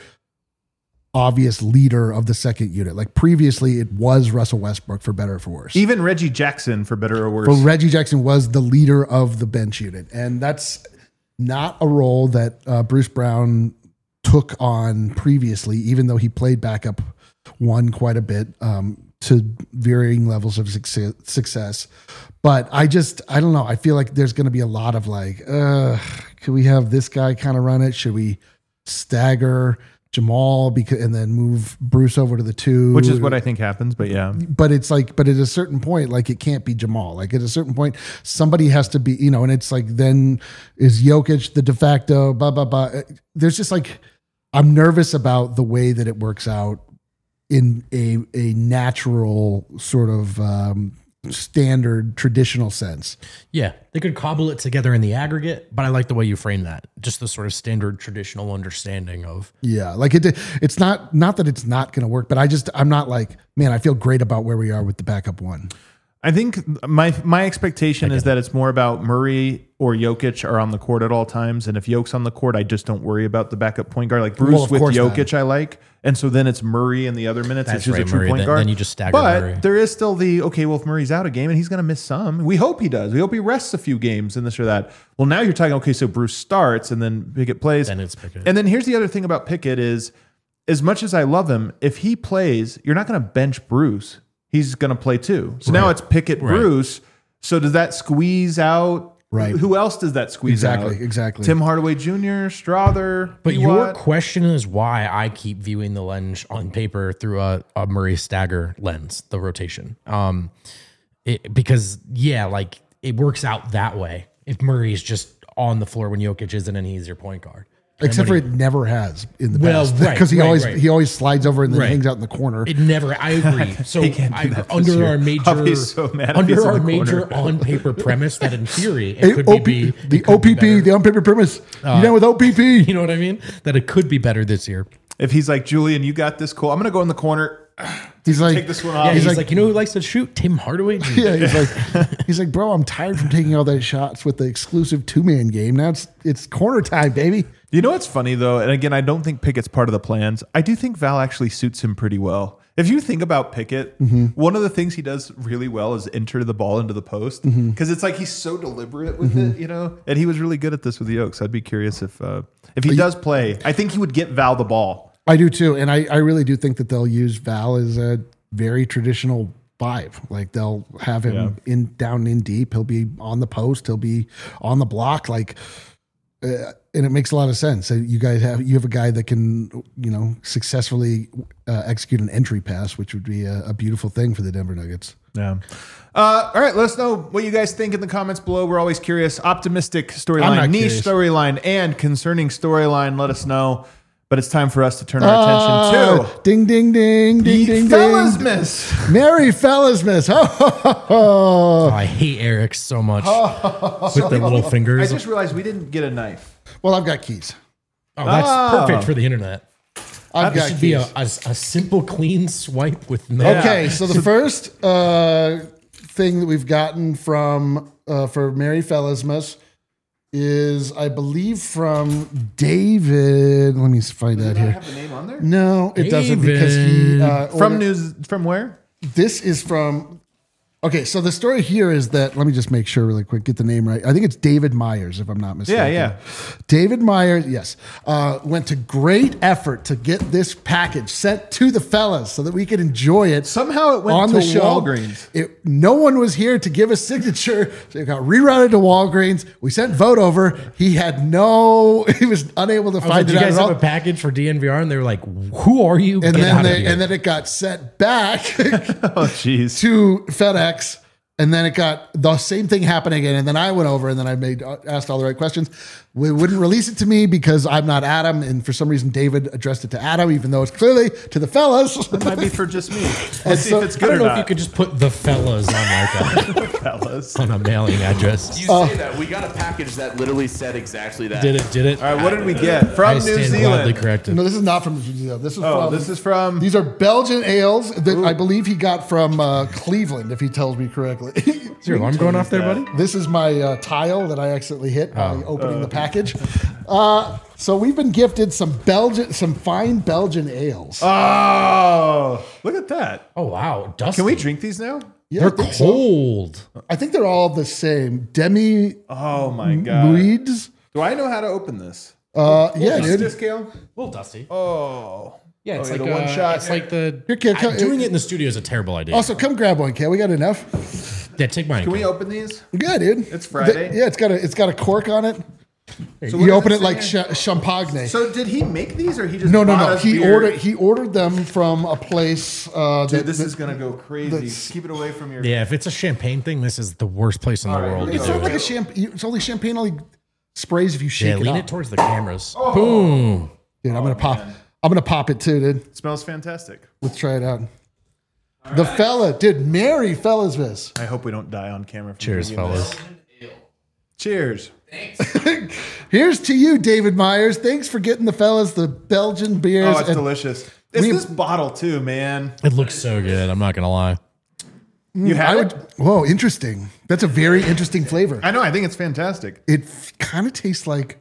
A: obvious leader of the second unit. Like previously, it was Russell Westbrook, for better or for worse.
B: Even Reggie Jackson, for better or worse.
A: But Reggie Jackson was the leader of the bench unit, and that's not a role that uh, Bruce Brown took on previously, even though he played backup one quite a bit um, to varying levels of success, success. But I just, I don't know. I feel like there's going to be a lot of like, uh, could we have this guy kind of run it? Should we stagger Jamal because and then move Bruce over to the two?
B: which is what I think happens, but yeah.
A: But it's like, but at a certain point, like it can't be Jamal. Like at a certain point, somebody has to be, you know, and it's like, then is Jokic the de facto, blah, blah, blah. There's just like, I'm nervous about the way that it works out in a, a natural sort of um, standard traditional sense.
C: Yeah, they could cobble it together in the aggregate, but I like the way you frame that. Just the sort of standard traditional understanding of
A: Yeah. Like it, it's not, not that it's not going to work, but I just, I'm not like, man, I feel great about where we are with the backup one.
B: I think my my expectation is that it's more about Murray or Jokic are on the court at all times, and if Jokic's on the court, I just don't worry about the backup point guard. Like Bruce
A: Well, of
B: with
A: course not.
B: Jokic, I like, and so then it's Murray in the other minutes.
C: That's
B: It's just
C: right,
B: a true
C: Murray.
B: point
C: Then-
B: guard.
C: then you just stagger
B: But
C: Murray.
B: there is still the okay. Well, if Murray's out a game and he's going to miss some, we hope he does. We hope he rests a few games and this or that. Well, now you're talking okay. So Bruce starts and then Pickett plays,
C: Then it's Pickett.
B: and then here's the other thing about Pickett is, as much as I love him, if he plays, you're not going to bench Bruce. He's going to play too. So now
C: Right.
B: it's Pickett,
C: Right.
B: Bruce. So does that squeeze out?
A: Right.
B: Who else does that squeeze
A: Exactly,
B: out?
A: exactly.
B: Tim Hardaway Junior, Strother.
C: But
B: P.
C: your
B: Watt.
C: question is why I keep viewing the lens on paper through a, a Murray stagger lens, the rotation. Um, it, because yeah, like it works out that way. If Murray's just on the floor when Jokic isn't, and he's your point guard. And
A: Except for
C: when
A: it never has in the
C: Well,
A: past.
C: right,
A: Because he
C: right,
A: always,
C: right.
A: he always slides over and then
C: Right.
A: hangs out in the corner.
C: he- It never. I agree. So
B: He can't do
C: I,
B: that this
C: under
B: year.
C: our major,
B: I'll be so mad if he's
C: under
B: in
C: our
B: the
C: major
B: corner.
C: on paper premise that in theory it
A: Hey,
C: could
A: O P
C: be,
A: the
C: it could be
A: O P P,
C: better.
A: the on paper premise. you know, with O P P.
C: You know what I mean? That it could be better this year.
B: If he's like, Julian, you got this, cool. I'm going to go in the corner.
A: He's like,
B: Take this one
C: Yeah,
B: off.
C: he's,
A: he's
C: like,
A: like-
C: you know who likes to shoot? Tim Hardaway.
A: yeah, he's like, he's like, bro, I'm tired from taking all those shots with the exclusive two man game. Now it's it's corner time, baby.
B: You know what's funny though, and again, I don't think Pickett's part of the plans. I do think Val actually suits him pretty well. If you think about Pickett,
A: Mm-hmm.
B: one of the things he does really well is enter the ball into the post because
A: Mm-hmm.
B: it's like he's so deliberate with it, you know. And he was really good at this with the Oaks. I'd be curious if uh, if he does play. I think he would get Val the ball.
A: I do too, and I, I really do think that they'll use Val as a very traditional five. Like they'll have him
B: Yeah.
A: in down in deep. He'll be on the post. He'll be on the block. Like, uh, and it makes a lot of sense. So you guys have you have a guy that can you know successfully uh, execute an entry pass, which would be a, a beautiful thing for the Denver Nuggets.
B: Yeah. Uh, all right, let us know what you guys think in the comments below. We're always curious. Optimistic
A: I'm
B: storyline,
A: not
B: niche
A: curious.
B: storyline, and concerning storyline. Let us know. But it's time for us to turn our attention
A: Uh, ding, ding, ding, ding, ding,
B: to Fellas
A: ding.
B: Miss.
A: Merry Fellasmas. Ho, ho, ho, ho.
C: Oh, I hate Eric so much with the little
B: I
C: fingers.
B: just realized we didn't get a knife.
A: Well, I've got keys.
C: Oh, that's
B: Oh.
C: perfect for the internet.
A: I've
C: This
A: got
C: should
A: keys.
C: be a, a, a simple, clean swipe with no.
A: Okay, so the first uh, thing that we've gotten from uh, for Merry Fellasmas is, I believe, from David. Let me find that here.
B: Have the name on there?
A: No, it doesn't because he uh,
B: From
A: ordered-
B: news from where?
A: This is from. Okay, so the story here is that, let me just make sure really quick, get the name right. I think it's David Myers, if I'm not mistaken.
B: Yeah, yeah.
A: David Myers, yes, uh, went to great effort to get this package sent to the fellas so that we could enjoy it.
B: Somehow it went
A: on
B: to
A: the show.
B: Walgreens.
A: It, no one was here to give a signature, so it got rerouted to Walgreens. We sent vote over. He had no, he was unable to
C: I was like,
A: find
C: do
A: it
C: you
A: out
C: guys
A: at
C: have
A: all.
C: a package for D N V R? And they were like, who are you?
A: And
C: Get
A: then
C: out of
A: they,
C: here.
A: and then it got sent back
B: Oh, jeez.
A: to FedEx, and then it got the same thing happening again. And then I went over, and then I made asked all the right questions. We wouldn't release it to me because I'm not Adam, and for some reason David addressed it to Adam, even though it's clearly to the fellas.
B: It might be for just me. Let's
A: And
B: see
A: so-
B: if it's
C: I
B: good
C: don't
B: or
C: know
B: not.
C: if you could just put the fellas on like a,
B: fellas.
C: on a mailing address.
D: You
A: Oh.
D: say that. We got a package that literally said exactly that.
C: Did it? Did it?
B: All right, what did we get from
C: I
B: New
C: stand
B: Zealand?
C: gladly corrected.
A: No, this is not from New Zealand. This is
B: Oh,
A: from.
B: this is from.
A: These are Belgian ales that I believe he got from uh, Cleveland, if he tells me correctly.
C: Is your alarm going off there, buddy?
A: This is my uh, tile that I accidentally hit by
C: Oh.
A: opening the package. Uh, so we've been gifted some Belgian, some fine Belgian ales.
B: Oh, look at that.
C: Oh wow, dusty.
B: Can we drink these now?
A: Yeah,
C: They're
A: I think so.
C: cold.
A: I think they're all the same. Demi
B: Oh my god.
A: Muids.
B: Do I know how to open this?
A: Uh, yeah,
B: Is
A: dude.
B: this scale?
C: A little dusty.
B: Oh.
C: Yeah, it's
B: Oh,
C: like
B: the
C: uh,
B: one shot.
C: It's like the
A: Here, Kale, come-
C: I- doing it in the studio is a terrible idea.
A: Also, come grab one, Kale. We got enough.
C: yeah, take mine.
B: Can we
C: Kyle.
B: open these?
A: Yeah, dude.
B: It's Friday.
A: Yeah, it's got a it's got a cork on it.
B: what
A: you
B: does
A: open
B: it
A: it like
B: say?
A: ch- champagne.
B: So did he make these or he just
A: No, no,
B: bought
A: no.
B: us
A: He
B: beer?
A: ordered he ordered them from a place. Uh,
B: Dude,
A: that,
B: this
A: that-
B: is gonna go crazy.
A: that's-
B: Keep it away from your.
C: Yeah, if it's a champagne thing, this is the worst place in the
B: right,
C: world to
B: here
A: It's
C: do
A: not
C: it.
A: like a champagne. It's only champagne only sprays if you shake
C: Yeah,
A: it
C: lean
A: up.
C: it towards the cameras.
B: Oh.
C: Boom.
A: Dude, I'm gonna pop. I'm gonna pop it too, dude.
B: It smells fantastic.
A: Let's try it out. The fella, dude, Merry Fellasmas.
B: I hope we don't die on camera. from
C: Cheers,
B: drinking this.
C: fellas.
B: Cheers.
A: Here's to you, David Myers. Thanks for getting the fellas the Belgian beers.
B: Oh, it's
A: and-
B: delicious. It's
A: we-
B: this bottle too, man.
C: It looks so good. I'm not gonna lie.
B: You
A: I
B: have
A: would.
B: it?
A: Whoa, interesting. That's a very interesting flavor.
B: I know. I think it's fantastic.
A: It kind of tastes like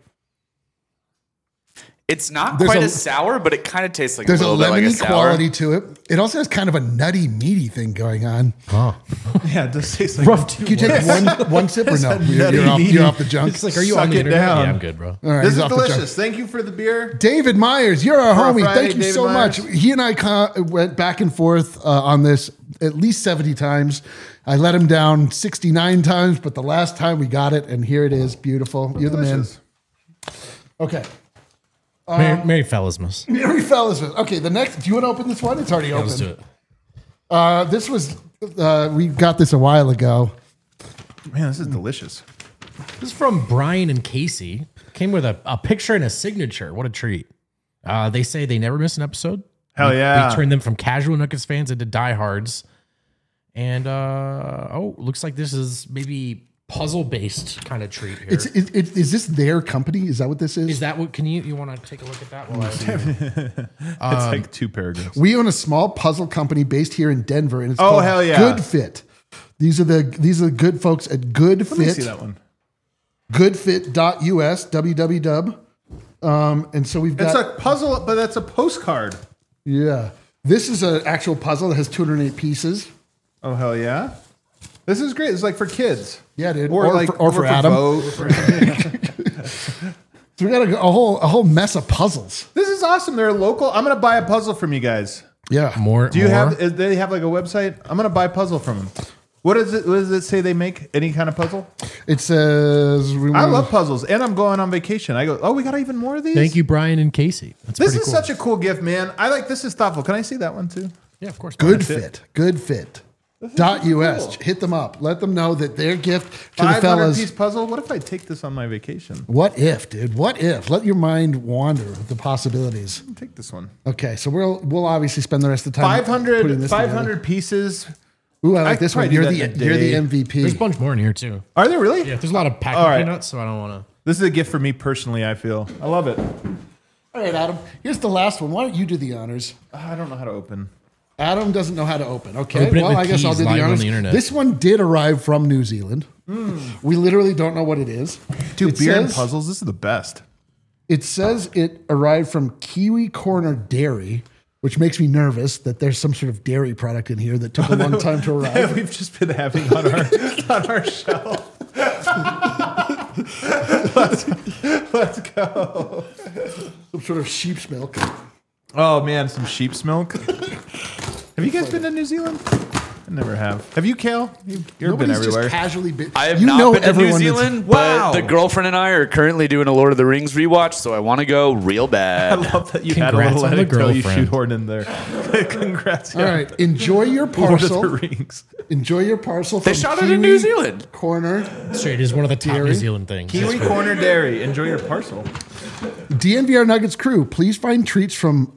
D: It's not
A: There's
D: quite
A: a-
D: as sour, but it kind of tastes like
A: there's
D: a
A: a
D: little bit like a
A: lemony
D: sour.
A: quality to it. It also has kind of a nutty, meaty thing going on.
C: Oh.
B: Yeah, it does taste like
C: Rough two
A: Can you take one one sip or no?
B: a
A: You're,
B: nutty,
A: you're off,
B: meaty-
A: you're off the junk.
C: It's like, are you
B: Suck
C: on the
B: it
C: internet?
B: down.
C: Yeah, I'm good, bro.
A: All right,
B: This
A: he's
B: is
A: off the junk.
B: delicious. Thank you for the beer.
A: David Myers, you're our
B: For a
A: homie.
B: Friday,
A: Thank you
B: David
A: so
B: Myers.
A: much. He and I con- went back and forth uh, on this at least seventy times. I let him down sixty-nine times, but the last time we got it, and here it is. Beautiful. You're the man.
B: Delicious.
A: Okay.
C: Merry, Merry Fellasmas.
A: Merry fellas. Okay, the next. Do you want to open this one? It's already
C: Yeah,
A: open.
C: let's do it.
A: Uh, this was, uh, we got this a while ago.
B: Man, this is delicious.
C: This is from Brian and Casey. Came with a, a picture and a signature. What a treat. Uh, they say they never miss an episode.
B: Hell
C: We-
B: yeah.
C: We turned them from casual Nuggets fans into diehards. And, uh, oh, looks like this is maybe puzzle based kind of treat here.
A: It's, it, it, is this their company? Is that what this is?
C: Is that what, can you, you want to take a look at that? While I
B: It's
C: Um,
B: like two paragraphs.
A: We own a small puzzle company based here in Denver, and it's
B: Oh,
A: called
B: hell yeah.
A: Good Fit. These are the these are the good folks at Good
B: Let me
A: Fit.
B: see that one.
A: Goodfit dot U S, w w w. Um, and so we've
B: It's
A: got
B: a puzzle, but that's a postcard.
A: yeah. This is an actual puzzle that has two hundred eight pieces.
B: Oh hell yeah! This is great. It's like for kids.
A: Yeah, dude.
B: Or,
A: Or
B: like
A: for- or for Adam.
B: Vogue, for-
A: So we got a, a whole a whole mess of puzzles.
B: this is awesome. They're local. I'm gonna buy a puzzle from you guys.
A: Yeah.
C: more,
B: Do you
C: more?
B: have? is- They have like a website. I'm gonna buy a puzzle from them. What does it? What does it say? They make any kind of puzzle?
A: It says we
B: I
A: want-
B: love puzzles, and I'm going on vacation. I go. Oh, we got even more of these.
C: Thank you, Brian and Casey. That's
B: This
C: pretty
B: is
C: cool.
B: such a cool gift, man. I like. This is thoughtful. Can I see that one too?
C: Yeah, of course.
A: Good
B: That's it.
A: Fit. Good Fit. Dot us. Hit them up. Let them know that their gift to the
B: five hundred
A: fellas.
B: piece puzzle. What if I take this on my vacation?
A: What if, dude? What if? Let your mind wander with the possibilities.
B: Take this one.
A: Okay, so we'll we'll obviously spend the rest of the time
B: five hundred,
A: putting this
B: five
A: together.
B: hundred pieces.
A: Ooh, I like
B: I
A: this
B: could
A: one.
B: probably
A: You're
B: do
A: the
B: that in a
A: you're the
B: day.
A: M V P.
C: There's a bunch more in here too.
B: Are there really?
C: Yeah, there's a lot of packing
B: All right.
C: peanuts, so I don't want to.
B: This is a gift for me personally, I feel. I love it.
A: All right, Adam. Here's the last one. Why don't you do the honors?
B: I don't know how to open.
A: Adam doesn't know how to open. Okay,
C: Open it
A: well,
C: with
A: I guess I'll
C: keys
A: do
C: live
A: the
C: on
A: honors.
C: the internet.
A: This one did arrive from New Zealand. We literally don't know what it is.
B: Dude,
A: It
B: beer and
A: says-
B: puzzles, this is the best.
A: It says it arrived from Kiwi Corner Dairy, which makes me nervous that there's some sort of dairy product in here that took a long time to arrive.
B: We've just been having on our on our shelf. let's, let's go.
A: Some sort of sheep's milk.
B: Oh man, some sheep's milk. Have you guys been to New Zealand? I never have. Have you, Kale? You've, you've been
A: Nobody's
B: everywhere.
A: just casually been.
D: I have
A: you
D: not
A: know
D: been to New
A: everyone that's-
D: Zealand,
B: Wow.
D: but the girlfriend and I are currently doing a Lord of the Rings rewatch, so I want to go real
B: I
D: bad.
B: love that you
C: Congrats
B: had a little
C: on the
B: anecdote you
C: girlfriend.
B: shoehorned in there. Congrats.
A: All right, enjoy your
B: Lord of
A: parcel.
B: the Rings.
A: Enjoy your parcel.
D: They
A: from
D: shot it in
A: Kiwi
D: New Zealand.
A: Corner.
C: Straight is one of the top
A: Dairy?
C: New Zealand things.
B: Kiwi Corner Dairy. Enjoy your parcel.
A: D N V R Nuggets crew, please find treats from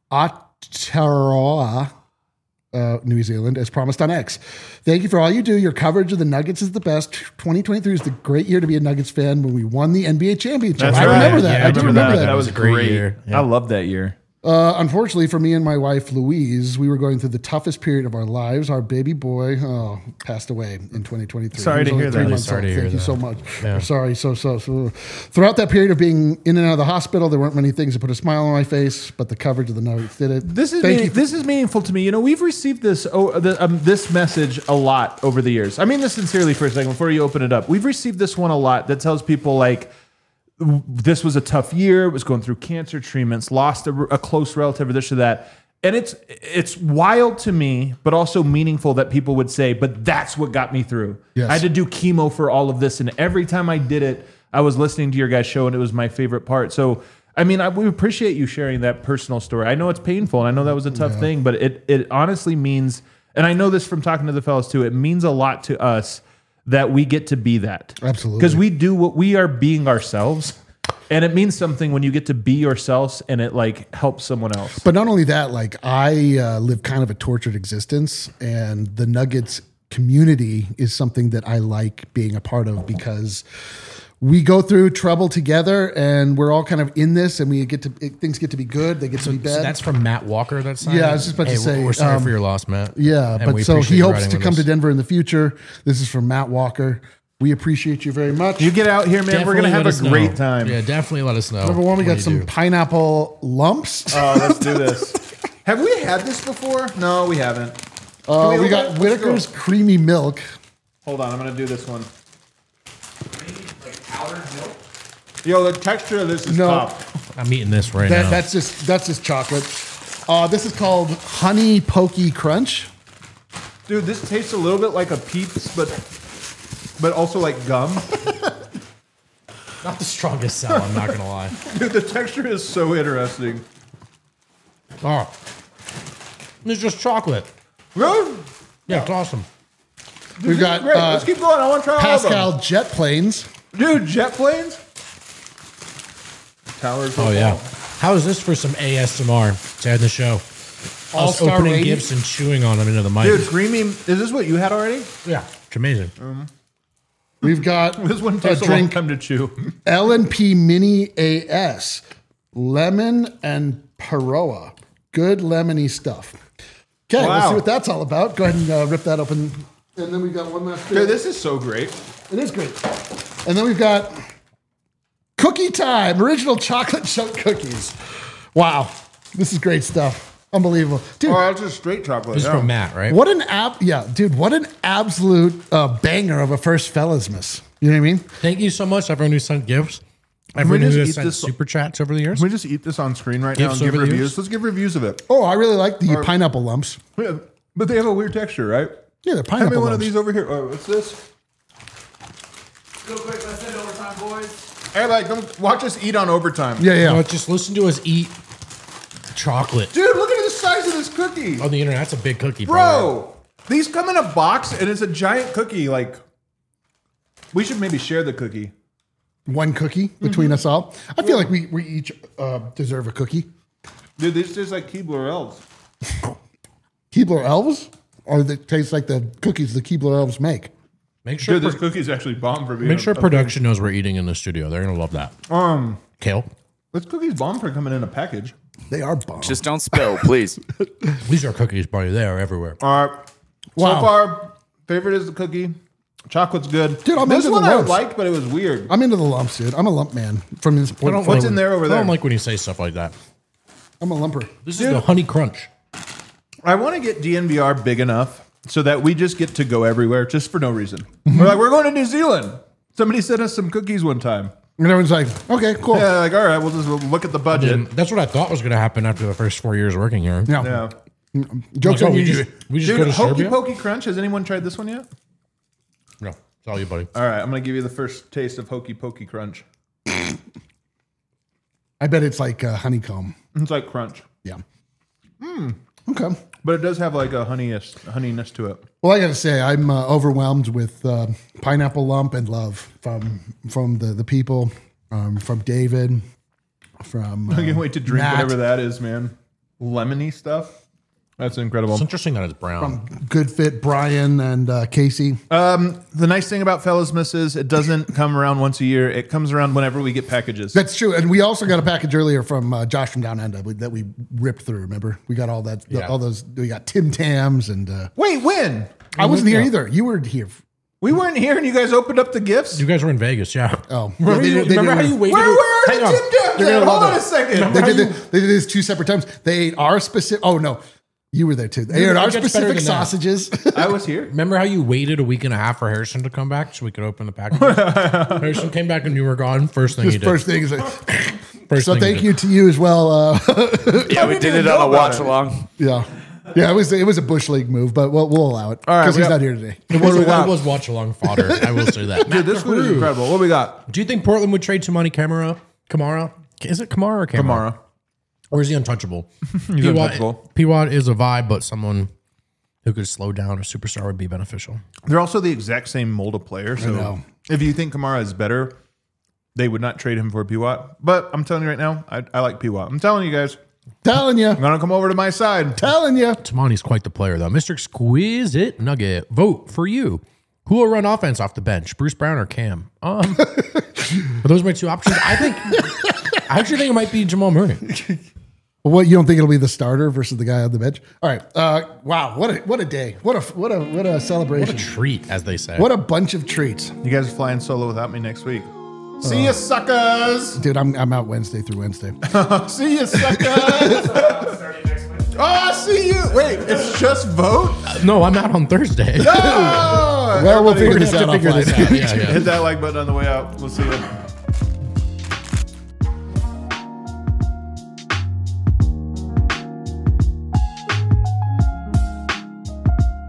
A: Aotearoa, uh, New Zealand, as promised on X. Thank you for all you do. Your coverage of the Nuggets is the best. twenty twenty-three is the great year to be a Nuggets fan when we won the N B A championship.
B: That's
A: I
B: right.
A: remember that.
C: Yeah,
A: I do remember that.
B: That was
C: was a great
B: great.
C: year. Yeah.
B: I love that year.
A: Uh, unfortunately for me and my wife, Louise, we were going through the toughest period of our lives. Our baby boy oh, passed away in twenty twenty-three.
B: Sorry
A: He was
B: to
A: only
B: hear
A: three
B: that.
A: months
C: Sorry to
A: old.
C: hear
A: Thank you
C: that.
A: so much.
C: Yeah.
A: We're sorry. So, so, so. Throughout that period of being in and out of the hospital, there weren't many things that put a smile on my face, but the coverage of the Nuggets did it.
B: This is
A: Thank
B: meaning,
A: you.
B: this is meaningful to me. You know, we've received this oh, the, um, this message a lot over the years. I mean this sincerely for a second before you open it up. We've received this one a lot that tells people like this was a tough year. It was going through cancer treatments, lost a, a close relative, or this or that. And it's it's wild to me, but also meaningful that people would say, "But that's what got me through."
A: Yes.
B: I had to do chemo for all of this, and every time I did it, I was listening to your guys' show, and it was my favorite part. So. I mean, I, we appreciate you sharing that personal story. I know it's painful, and I know that was a tough thing, but it it honestly means, and I know this from talking to the fellas too, it means a lot to us that we get to be that.
A: Absolutely.
B: Because we do what we are being ourselves, and it means something when you get to be yourselves and it like helps someone else.
A: But not only that, like I uh, live kind of a tortured existence, and the Nuggets community is something that I like being a part of because we go through trouble together, and we're all kind of in this, and we get to things get to be good, they get to be bad.
C: So that's from Matt Walker. That's
A: Yeah, I was just about to
C: hey,
A: say,
C: we're, we're sorry
A: um,
C: for your loss, Matt.
A: yeah,
C: And
A: but
C: we
A: so
C: appreciate
A: he
C: you
A: hopes
C: riding
A: to
C: with
A: come
C: us.
A: to Denver in the future. This is from Matt Walker. We appreciate you very much.
B: You get out here, man. We're
C: Definitely
B: gonna have
C: let
B: a
C: us know.
B: great time.
C: Yeah, definitely let us know.
A: Number one, we
C: when
A: got
C: you
A: some
C: do.
A: pineapple lumps.
B: Oh, let's do this. Have we had this before? No, we haven't.
A: Uh,
B: we
A: we
B: open
A: got
B: it? Let's
A: Whitaker's
B: go.
A: creamy milk.
B: Hold on, I'm gonna do this one. Yo, the texture of this is
A: No.
B: tough.
C: I'm eating this right
A: That,
C: now.
A: that's just that's just chocolate. Uh, this is called Honey Pokey Crunch.
B: Dude, this tastes a little bit like a Peeps, but but also like gum.
C: Not the strongest sell, I'm not gonna lie.
B: Dude, the texture is so interesting.
C: Oh, it's just chocolate.
B: Really?
C: Yeah, it's awesome.
A: We've got
B: Great.
A: uh,
B: Let's keep going. I want to try all of
A: Pascal Jet Planes.
B: them. Dude, jet planes? Towers.
C: Oh yeah. How is this for some A S M R to end the show? Us
A: All-Star
C: opening
A: rating.
C: gifts and chewing on them into the mic.
B: Dude, creamy. Is this what you had already?
C: Yeah, it's amazing.
A: We've got
B: This one
A: a
B: takes a long
A: drink
B: time to chew.
A: L and P Mini A S, lemon and Paroa. Good lemony stuff. Okay, let's
B: Wow.
A: see what that's all about. Go ahead and uh, rip that open. And then we've got one last.
B: Dude, this is so great.
A: It is great. And then we've got Cookie Time, original chocolate chunk cookies. Wow, this is great stuff. Unbelievable, dude.
B: Oh, that's just straight chocolate.
C: This is
B: yeah.
C: from Matt, right?
A: What an app, yeah, dude. What an absolute uh, banger of a first fellasmas. You know what I mean?
C: Thank you so much, everyone who sent gifts.
B: we
C: Everyone
B: just
C: who
B: eat
C: has sent
B: this-
C: super chats over the years.
B: Can we just eat this on screen right now
C: Gifts
B: and give
C: over the
B: reviews?
C: years?
B: Let's give reviews of it.
A: Oh, I really like the pineapple lumps.
B: Yeah, but they have a weird texture, right?
A: Yeah, they're
B: Hand
A: pineapple
B: me one
A: lumps.
B: of these over here. Oh, what's this?
D: Real quick, let's hit overtime, boys.
B: Hey, like, come watch us eat on overtime.
A: Yeah, yeah.
C: No, just listen to us eat chocolate
B: Dude, look at the size of this cookie.
C: on the internet. That's a big cookie,
B: Bro, These come in a box and it's a giant cookie. Like, we should maybe share the cookie.
A: One cookie between mm-hmm. us all. I feel like we, we each uh, deserve a cookie.
B: Dude, this tastes like Keebler Elves.
A: Keebler Elves? Or they taste like the cookies the Keebler Elves make?
C: Make sure
B: Dude, this
C: pro-
B: cookie's actually bomb for being
C: Make sure
B: a, a
C: production knows we're eating in the studio. They're gonna love that.
B: Um,
C: Kale.
B: This cookie's bomb for coming in a package.
A: They are bomb.
D: Just don't spill, please.
C: These are cookies, buddy. They are everywhere.
B: All right.
A: Wow.
B: So far, favorite is the cookie. Chocolate's good.
A: Dude, I'm
B: this
A: into
B: one
A: the
B: I
A: lumps.
B: liked, but it was weird.
A: I'm into the lumps, dude. I'm a lump man from this point.
C: I don't
B: What's
C: like-
B: in there over
C: I
B: there?
C: don't like when you say stuff like that.
A: I'm a lumper.
C: This
B: Dude.
C: is the honey crunch.
B: I want to get D N V R big enough so that we just get to go everywhere just for no reason. We're like, we're going to New Zealand. Somebody sent us some cookies one time.
A: And everyone's like, okay, cool.
B: Yeah, like, all right, we'll just we'll look at the budget.
C: And that's what I thought was going to happen after the first four years working here.
A: Yeah.
B: Yeah.
A: Joke's
C: Like, oh,
A: on
C: we
A: you.
C: just, we just
B: Dude,
C: go to
B: Hokey
C: Serbia?
B: Pokey Crunch. Has anyone tried this one yet?
C: No, it's all you, buddy.
B: All right, I'm going to give you the first taste of Hokey Pokey Crunch.
A: I bet it's like uh, honeycomb.
B: It's like crunch,
A: Yeah. Okay.
B: but it does have like a honeyness, honeyness to it.
A: Well, I got to say, I'm uh, overwhelmed with uh, pineapple lump and love from from the the people, um, from David, from. Uh,
B: I can't wait to drink
A: Matt,
B: whatever that is, man. Lemony stuff. That's incredible.
C: It's interesting that it's brown.
A: Good Fit, Brian, and uh, Casey.
B: Um, the nice thing about Fellasmas is it doesn't come around once a year. It comes around whenever we get packages.
A: That's true, and we also got a package earlier from uh, Josh from Down Under that we ripped through. Remember, we got all that,
C: Yeah.
A: all those. We got Tim Tams, and uh,
B: Wait, when?
A: I wasn't here
C: Yeah.
A: either. You were here.
B: We weren't here and you guys opened up the gifts?
C: You guys were in Vegas, yeah.
A: Oh,
C: Remember,
A: Yeah,
C: you,
A: they- they
C: remember how
A: did-
C: you waited?
B: Where were
C: Hang
B: the
C: on.
B: Tim Tams
C: You're
B: at?
C: gonna love
B: Hold on
C: it.
B: a second.
A: They did, this, they did this two separate times. they ate our specific. Oh no, you were there too. They ate
C: It
A: our
C: gets better
A: specific
C: than that.
A: sausages.
B: I was here.
C: Remember how you waited a week and a half for Harrison to come back so we could open the package? Harrison came back and you were gone. First thing
A: This
C: he did.
A: first thing is like,
C: First
A: so.
C: thing he
A: Thank
C: did.
A: you to you as well. Uh,
D: Yeah, we
B: didn't
D: did
B: even
D: it
B: know
D: on a
B: about
D: watch
B: it.
D: along.
A: yeah, yeah. It was it was a bush league move, but we'll, we'll allow it
B: All right,
A: because
B: we
A: he's
B: got-
A: not here today.
C: It was,
B: do we
C: it
B: got?
C: was watch along fodder. I will say that.
B: Dude, this food is incredible. What do we got?
C: Do you think Portland would trade Tamani Kamara? Kamara? Is it Kamara or Kamara?
B: Kamara.
C: Or is he untouchable?
B: He's untouchable.
C: P Watt is a vibe, but someone who could slow down a superstar would be beneficial.
B: They're also the exact same mold of player. So
A: know.
B: if you think Kamara is better, they would not trade him for P Watt. But I'm telling you right now, I, I like P Watt. I'm telling you guys,
A: Telling you,
B: I'm gonna come over to my side.
A: telling you.
C: Tamani's quite the player, though. Mister Exquisite Nugget, vote for you. Who will run offense off the bench, Bruce Brown or Cam? Um, are those my two options? I think. I actually think it might be Jamal Murray.
A: Well, what you don't think it'll be the starter versus the guy on the bench? All right. Uh, wow. What a what a day. What a what a what a
C: What
A: celebration.
C: a treat, as they say.
A: What a bunch of treats,
B: You guys are flying solo without me next week. See ya, suckers.
A: dude. I'm I'm out Wednesday through Wednesday.
B: See ya, suckers. Oh, see you. Wait, it's just vote?
C: No, I'm out on Thursday.
B: Oh,
A: Well, we'll figure
C: We're
A: this
C: gonna
A: out.
C: have to figure this
A: offline.
C: out. Yeah, yeah.
B: hit that like button on the way out. We'll see you.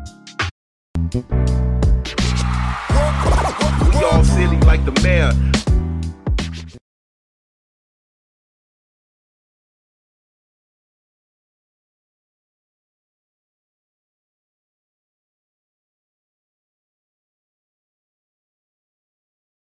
E: We all silly like the mayor.